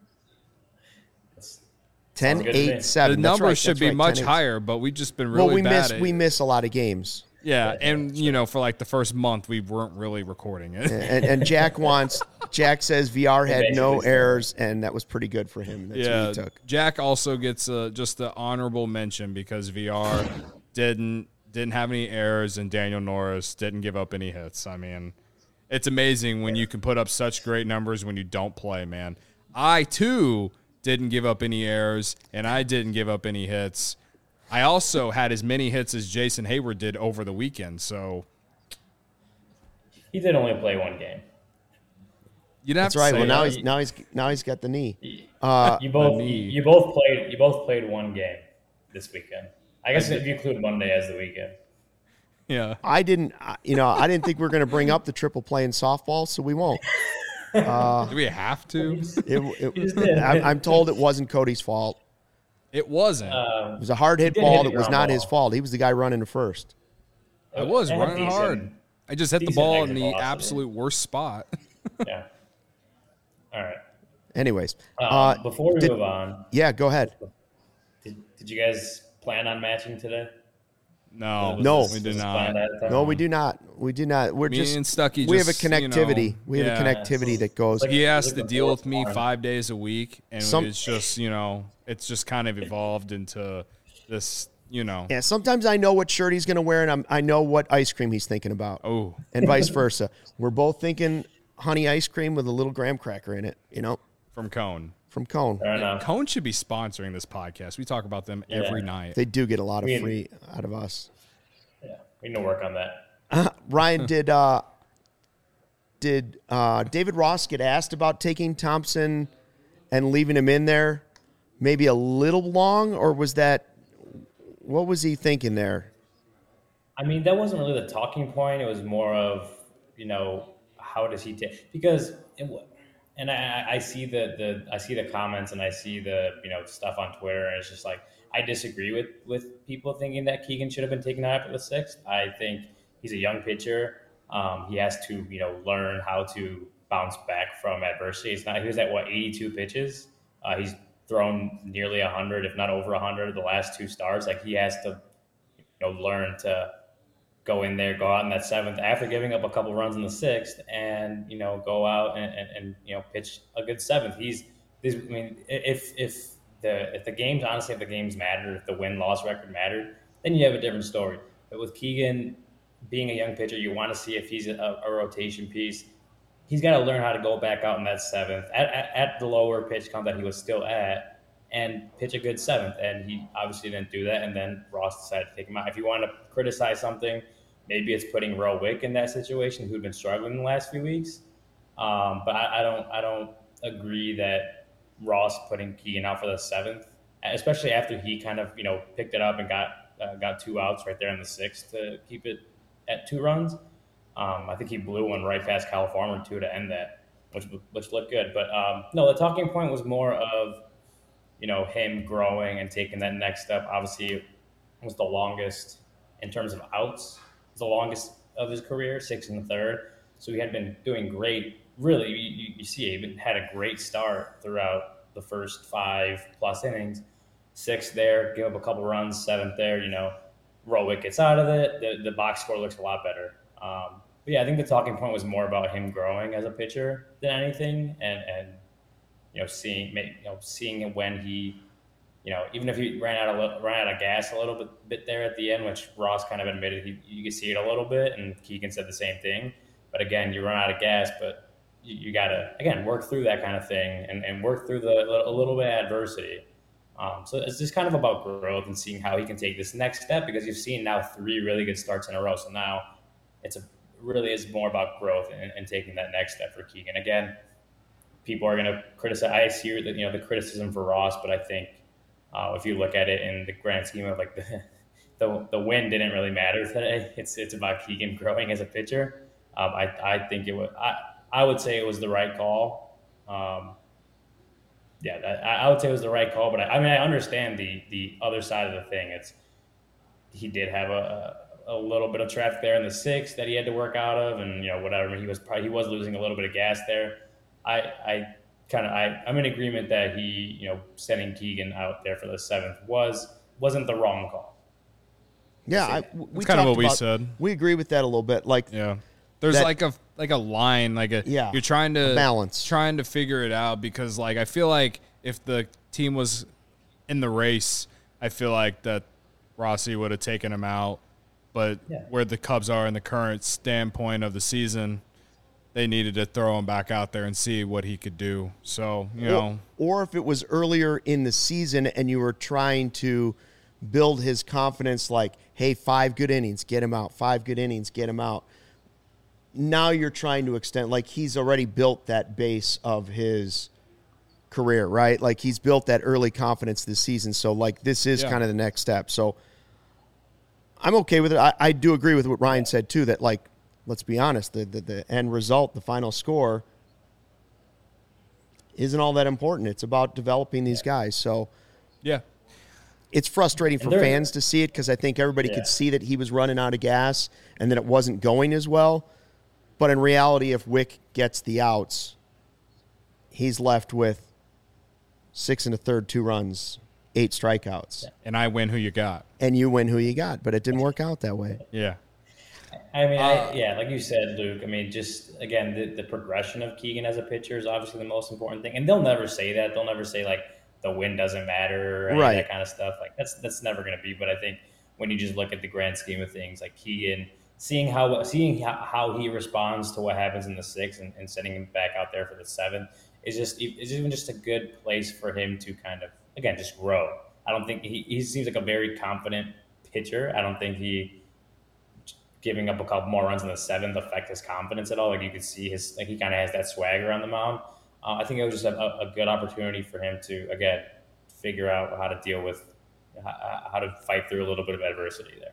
10, Sounds good to 8, me. 7. The That's numbers right, should that's be right, much 10, 8. higher, but we've just been really Well, bad at we miss a lot of games. Yeah, and for like the first month we weren't really recording it. And Jack says VR had no basically said- errors, and that was pretty good for him. That's Yeah, what he took. Jack also gets just the honorable mention because VR didn't have any errors and Daniel Norris didn't give up any hits. I mean, it's amazing when you can put up such great numbers when you don't play, man. I too didn't give up any errors and I didn't give up any hits. I also had as many hits as Jason Hayward did over the weekend, so He did only play one game. you don't have That's to right. say Well, that. now he's got the knee. You both played one game this weekend. I guess if you include Monday as the weekend. Yeah. I didn't think we were going to bring up the triple play in softball, so we won't. Do we have to? I'm told it wasn't Cody's fault. It wasn't. It was a hard hit did ball hit that the was ground not ball. his fault. He was the guy running to first. I was It had running decent- hard. I just hit the decent ball in exit the velocity. absolute worst spot. Yeah. All right. Anyways, Before we move on, yeah, go ahead. did you guys plan on matching today? No, No. we did Was this not. planned ahead of time? No, we do not. We do not. We're Me just and Stucky we have a just, connectivity. We have yeah. a connectivity that goes. Like- He has to Looking deal with forward me to 5 days a week, and Some- it's just it's just kind of evolved into this. Yeah, sometimes I know what shirt he's going to wear, and I know what ice cream he's thinking about, Oh, and vice versa. We're both thinking honey ice cream with a little graham cracker in it. from Cone. From Cone. Fair enough. Cone should be sponsoring this podcast. We talk about them every night. They do get a lot of We- free out of us. Yeah, we need to work on that. Ryan, did David Ross get asked about taking Thompson and leaving him in there maybe a little long, or was that what was he thinking there? I mean, that wasn't really the talking point. It was more of, how does he take? Because, and I see the comments and I see the stuff on Twitter, and it's just like I disagree with people thinking that Keegan should have been taken out after the sixth. I think he's a young pitcher. He has to learn how to bounce back from adversity. He was at 82 pitches. He's thrown nearly 100, if not over 100, the last two starts. Like he has to learn to go in there, go out in that seventh after giving up a couple runs in the sixth, and go out and pitch a good seventh. If if the games mattered, if the win-loss record mattered, then you have a different story. But with Keegan being a young pitcher, you want to see if he's a rotation piece. He's got to learn how to go back out in that seventh at the lower pitch count that he was still at and pitch a good seventh. And he obviously didn't do that. And then Ross decided to take him out. If you want to criticize something, maybe it's putting Roe Wick in that situation, who'd been struggling in the last few weeks. But I don't agree that Ross putting Keegan out for the seventh, especially after he kind of picked it up and got 2 outs right there in the sixth to keep it at 2 runs. I think he blew one right past Kyle Farmer too to end that, which looked good. But no, the talking point was more of him growing and taking that next step. Obviously, it was the longest in terms of outs. It was the longest of his career, 6 1/3. So he had been doing great. Really, you see, he had a great start throughout the first 5+ innings. 6th there, give up a couple runs. 7th there, Rowick gets out of it. The box score looks a lot better. But yeah, I think the talking point was more about him growing as a pitcher than anything, and seeing him when he, even if he ran out of gas a little bit there at the end, which Ross kind of admitted you could see it a little bit, and Keegan said the same thing. But again, you run out of gas, but you got to, again, work through that kind of thing and work through a little bit of adversity. So it's just kind of about growth and seeing how he can take this next step, because you've seen now 3 really good starts in a row. So now really is more about growth and taking that next step for Keegan. Again, people are going to criticize. I see the criticism for Ross, but I think if you look at it in the grand scheme of like the win didn't really matter today. It's about Keegan growing as a pitcher. I think I would say it was the right call. I would say it was the right call, but I understand the other side of the thing. He did have a little bit of traffic there in the 6th that he had to work out of, and whatever, he was losing a little bit of gas there. I'm in agreement that he sending Keegan out there for the 7th wasn't the wrong call. Yeah, we kind of what we said. We agree with that a little bit. Like, yeah, there's like a line, you're trying to balance, trying to figure it out, because I feel like if the team was in the race, I feel like that Rossi would have taken him out. But where the Cubs are in the current standpoint of the season, they needed to throw him back out there and see what he could do. So, Or if it was earlier in the season and you were trying to build his confidence, like, hey, 5 good innings, get him out. 5 good innings, get him out. Now you're trying to extend, like, he's already built that base of his career, right? Like, he's built that early confidence this season. So, like, this is kind of the next step. So, I'm okay with it. I do agree with what Ryan said, too, that, like, let's be honest, the end result, the final score, isn't all that important. It's about developing these guys. So, yeah, it's frustrating for fans to see it, because I think everybody could see that he was running out of gas and that it wasn't going as well. But in reality, if Wick gets the outs, he's left with 6 1/3, 2 runs, 8 strikeouts. And I win who you got. And you win who you got, but it didn't work out that way. Yeah. I mean, like you said, Luke, I mean, just, again, the progression of Keegan as a pitcher is obviously the most important thing. And they'll never say that. They'll never say, like, the win doesn't matter or any of that kind of stuff. Like, that's never going to be. But I think when you just look at the grand scheme of things, like Keegan, seeing how he responds to what happens in the 6th and sending him back out there for the 7th is even just a good place for him to kind of, again, just grow. I don't think he seems like a very confident pitcher. I don't think he giving up a couple more runs in the 7th affect his confidence at all. Like, you could see he kind of has that swagger on the mound. I think it was just a good opportunity for him to, again, figure out how to deal with, how to fight through a little bit of adversity there.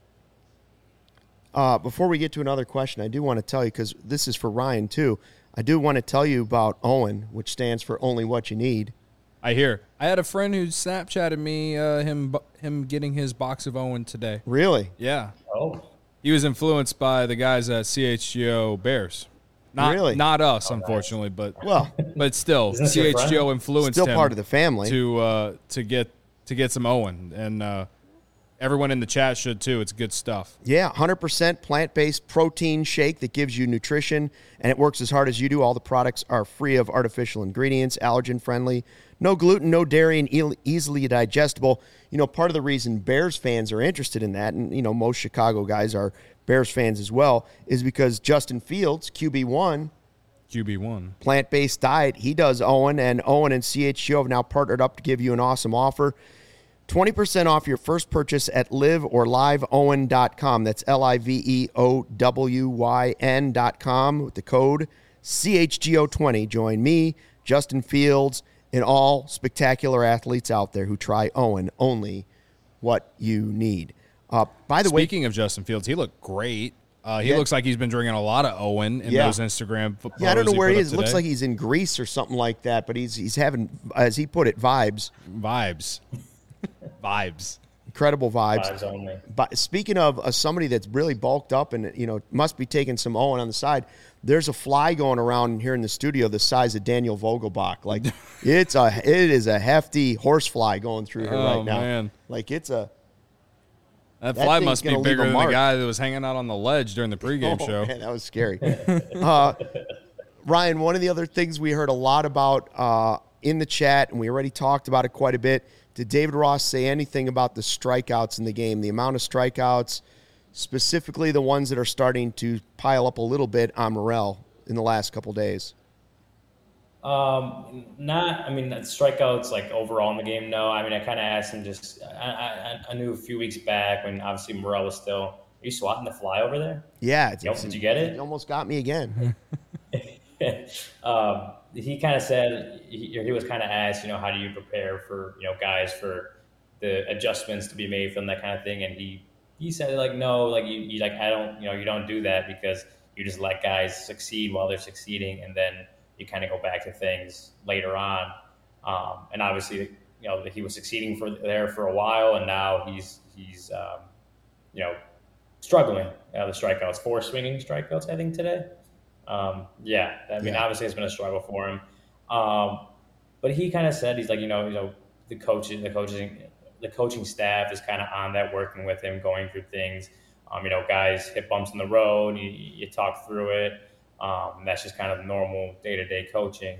Before we get to another question, I do want to tell you, because this is for Ryan too, I do want to tell you about Owen, which stands for Only What You Need. I hear. I had a friend who Snapchatted me him getting his box of Owen today. Really? Yeah. Oh. He was influenced by the guys at CHGO Bears. Not us, unfortunately, but still, CHGO influenced him. Still part of the family to get some Owen, and Everyone in the chat should too. It's good stuff. Yeah, 100% plant-based protein shake that gives you nutrition, and it works as hard as you do. All the products are free of artificial ingredients, allergen-friendly, no gluten, no dairy, and easily digestible. You know, part of the reason Bears fans are interested in that, and, you know, most Chicago guys are Bears fans as well, is because Justin Fields, QB1, plant-based diet, he does Owen, and Owen and CHGO have now partnered up to give you an awesome offer. 20% off your first purchase at live or liveowen.com. That's LIVEOWYN.com with the code CHGO20. Join me, Justin Fields, and all spectacular athletes out there who try Owen, only what you need. By the way, speaking of Justin Fields, he looked great. He looks like he's been drinking a lot of Owen in those Instagram photos. Yeah, I don't know where he is. It Today. looks like he's in Greece or something like that, but he's having, as he put it, vibes. Vibes. Incredible vibes. Vibes only. But speaking of somebody that's really bulked up and, you know, must be taking some Owen on the side, there's a fly going around here in the studio the size of Daniel Vogelbach. Like, it is a hefty horse fly going through here right now. Man. Like, That fly thing's must be gonna leave bigger a than the mark. guy that was hanging out on the ledge during the pregame show. Man, that was scary. Ryan, one of the other things we heard a lot about in the chat, and we already talked about it quite a bit, did David Ross say anything about the strikeouts in the game, the amount of strikeouts, specifically the ones that are starting to pile up a little bit on Morel in the last couple days? Strikeouts like overall in the game. No, I mean, I kind of asked him just, I knew a few weeks back when obviously Morel was still, are you swatting the fly over there? Yeah. Did you get it? It almost got me again. He kind of said, he was kind of asked, you know, how do you prepare for, you know, guys for the adjustments to be made from that kind of thing. And he said like, no, like you like, I don't, you know, you don't do that because you just let guys succeed while they're succeeding. And then you kind of go back to things later on. And obviously, you know, he was succeeding there for a while, and now he's you know, struggling. The strikeouts, 4 swinging strikeouts, I think today. Obviously it's been a struggle for him. But he kind of said, he's like, the coaching staff is kind of on that, working with him, going through things. Guys hit bumps in the road, you talk through it. That's just kind of normal day-to-day coaching.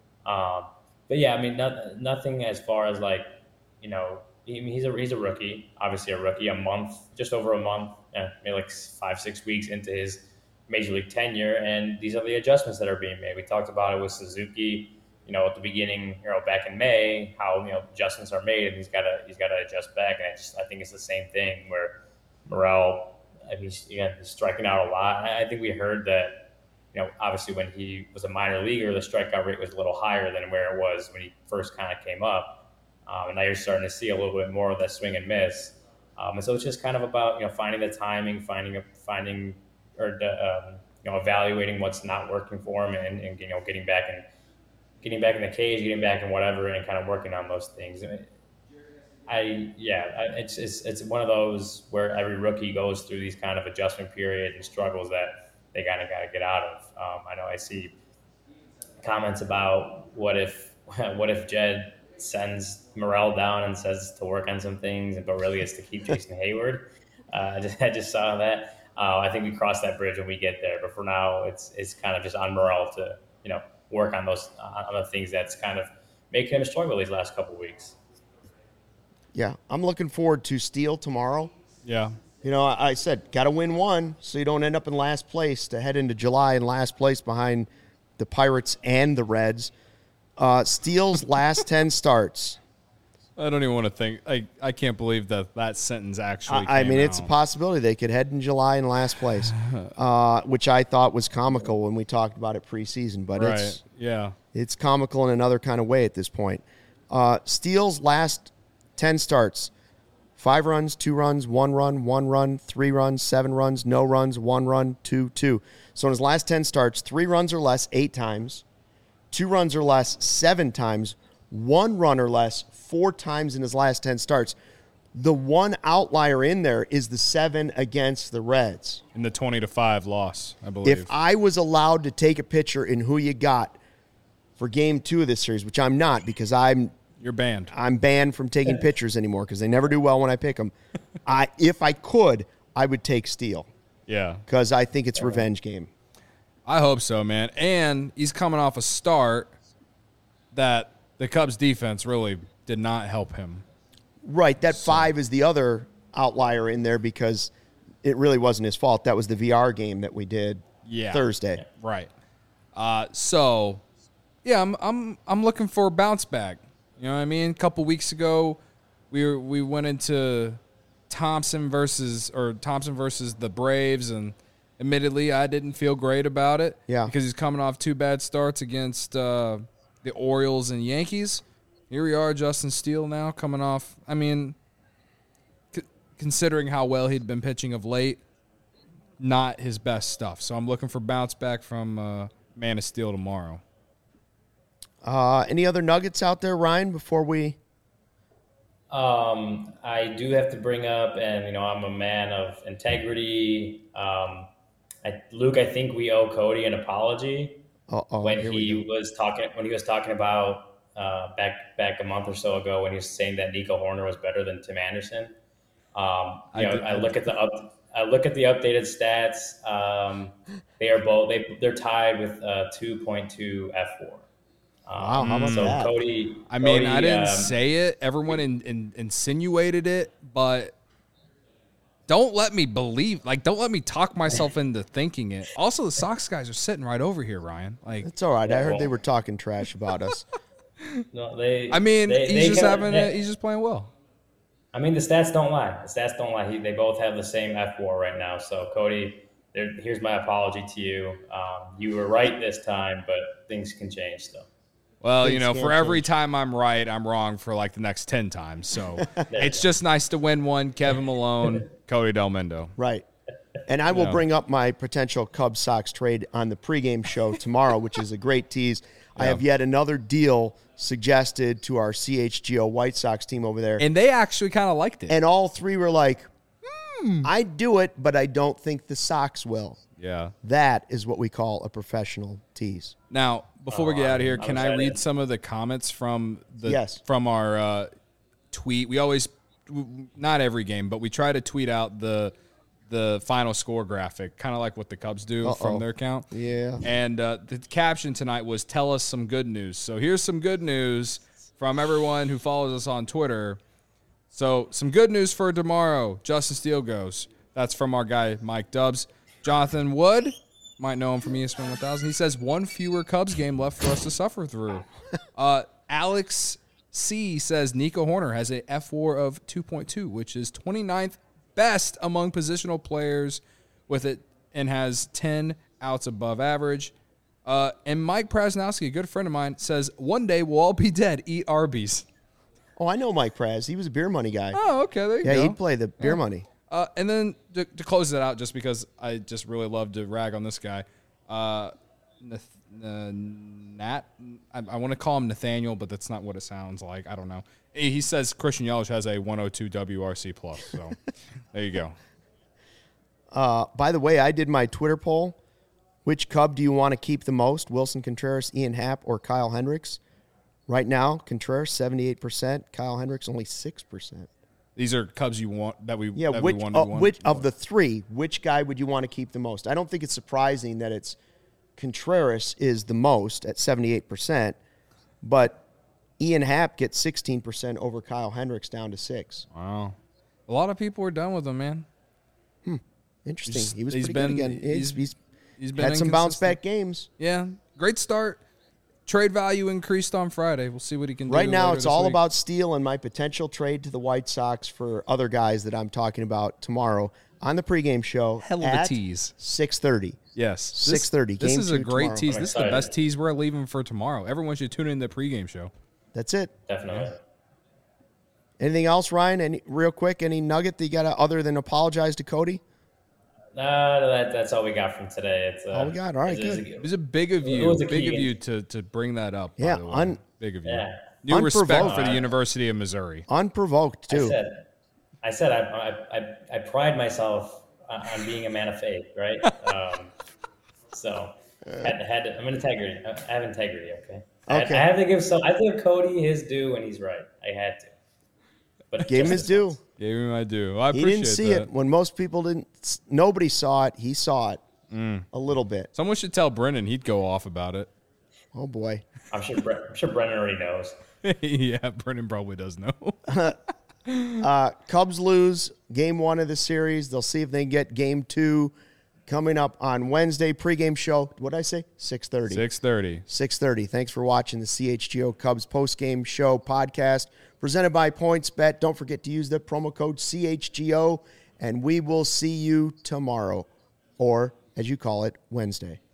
Nothing as far as like, he's a rookie, obviously a rookie, just over a month, maybe like 5-6 weeks into his major league tenure. And these are the adjustments that are being made. We talked about it with Suzuki, at the beginning, back in May, how, adjustments are made and he's got to adjust back. And I think it's the same thing where Morel, he's striking out a lot. I think we heard that, obviously when he was a minor leaguer, the strikeout rate was a little higher than where it was when he first kind of came up. And now you're starting to see a little bit more of that swing and miss. And so it's just kind of about, finding the timing, evaluating what's not working for him and getting back in the cage, getting back in whatever, and kind of working on those things. It's one of those where every rookie goes through these kind of adjustment periods and struggles that they kind of got to get out of. I know I see comments about what if Jed sends Morel down and says to work on some things, but really it's to keep Jason Hayward. I just saw that. I think we cross that bridge when we get there, but for now it's kind of just on Morel to work on those on the things that's kind of making him struggle these last couple of weeks. Yeah, I'm looking forward to Steele tomorrow. Yeah. I said, got to win one so you don't end up in last place to head into July in last place behind the Pirates and the Reds. Steele's last 10 starts. I don't even want to think. I can't believe that sentence actually I mean, came it's a out. possibility they could head in July in last place, which I thought was comical when we talked about it preseason. But it's comical in another kind of way at this point. Steele's last 10 starts. 5 runs, 2 runs, 1 run, 1 run, 3 runs, 7 runs, no runs, 1 run, 2, 2. So in his last 10 starts, 3 runs or less 8 times, 2 runs or less 7 times, 1 run or less 4 times in his last 10 starts. The one outlier in there is the 7 against the Reds. In the 20-5 loss, I believe. If I was allowed to take a picture in who you got for game 2 of this series, which I'm not because I'm You're banned. I'm banned from taking pitchers anymore because they never do well when I pick them. If I could, I would take Steele. Yeah. Because I think it's a revenge game. I hope so, man. And he's coming off a start that the Cubs defense really did not help him. Right. That 5 is the other outlier in there because it really wasn't his fault. That was the VR game that we did Thursday. Right. So, yeah, I'm looking for a bounce back. You know what I mean? A couple weeks ago, we went into Thompson versus the Braves, and admittedly, I didn't feel great about it. Yeah. Because he's coming off 2 bad starts against the Orioles and Yankees. Here we are, Justin Steele now coming off. I mean, considering how well he'd been pitching of late, not his best stuff. So I'm looking for bounce back from Man of Steel tomorrow. Any other nuggets out there, Ryan, before we... I do have to bring up, and I'm a man of integrity. Luke, I think we owe Cody an apology when he was talking about back a month or so ago when he was saying that Nico Horner was better than Tim Anderson. I look at the updated stats. They're tied with 2.2 F4. Wow, how about that? Cody, I didn't say it. Everyone insinuated it, but don't let me don't let me talk myself into thinking it. Also, the Sox guys are sitting right over here, Ryan. It's all right. I heard they were talking trash about us. No, he's just playing well. I mean, the stats don't lie. They both have the same F4 right now. So, Cody, here's my apology to you. You were right this time, but things can change still. Well, for every time I'm right, I'm wrong for the next 10 times. So it's just nice to win one. Kevin Malone, Cody Del Mundo. Right. And I will bring up my potential Cubs Sox trade on the pregame show tomorrow, which is a great tease. I have yet another deal suggested to our CHGO White Sox team over there. And they actually kind of liked it. And all 3 were like, I'd do it, but I don't think the Sox will. Yeah. That is what we call a professional tease. Now, before we get out of here, can I read some of the comments from our tweet? We always, not every game, but we try to tweet out the final score graphic, kind of like what the Cubs do from their account. Yeah. And the caption tonight was, "Tell us some good news." So here's some good news from everyone who follows us on Twitter. So some good news for tomorrow. Justin Steele goes. That's from our guy, Mike Dubs. Jonathan Wood, might know him from ESPN 1000. He says 1 fewer Cubs game left for us to suffer through. Alex C says Nico Horner has a F4 of 2.2, which is 29th best among positional players with it, and has 10 outs above average. And Mike Prasnowski, a good friend of mine, says one day we'll all be dead. Eat Arby's. Oh, I know Mike Praz. He was a beer money guy. Oh, okay. There you go. Yeah, he'd play the beer money. And then to close it out, just because I just really love to rag on this guy, I want to call him Nathaniel, but that's not what it sounds like. I don't know. He says Christian Yelich has a 102 WRC plus. So there you go. By the way, I did my Twitter poll. Which Cub do you want to keep the most? Wilson Contreras, Ian Happ, or Kyle Hendricks? Right now, Contreras 78%, Kyle Hendricks only 6%. These are Cubs you want that we which of the 3, which guy would you want to keep the most? I don't think it's surprising that it's Contreras is the most at 78%, but Ian Happ gets 16% over Kyle Hendricks down to 6%. Wow. A lot of people are done with him, man. Interesting. He was pretty good again. He's been had some bounce back games. Yeah. Great start. Trade value increased on Friday. We'll see what he can do. Right now, it's all about Steele and my potential trade to the White Sox for other guys that I'm talking about tomorrow on the pregame show. Hell of a tease. 6:30. Yes. 6:30. This is a great tomorrow. tease. This is the best tease we're leaving for tomorrow. Everyone should tune in to the pregame show. That's it. Definitely. Anything else, Ryan? Real quick, any nugget that you got to, other than apologize to Cody? That's all we got from today. It's all we got. All right, good. It was a big of you to bring that up. Yeah, big of you. Yeah. New respect for the University of Missouri. Unprovoked too. I said I pride myself on being a man of faith, right? So I'm integrity. I have integrity. Okay. Okay. I have to give Cody his due, and he's right. I had to. But Gave him just his due. once. Gave him my due. I He appreciate didn't see that. it when most people didn't. Nobody saw it. He saw it a little bit. Someone should tell Brennan. He'd go off about it. Oh boy. I'm sure Brennan already knows. Yeah, Brennan probably does know. Cubs lose game 1 of the series. They'll see if they can get game 2 coming up on Wednesday. Pregame show. What did I say? 6:30. 6:30. 6:30. Thanks for watching the CHGO Cubs postgame show podcast presented by PointsBet. Don't forget to use the promo code CHGO, and we will see you tomorrow, or as you call it, Wednesday.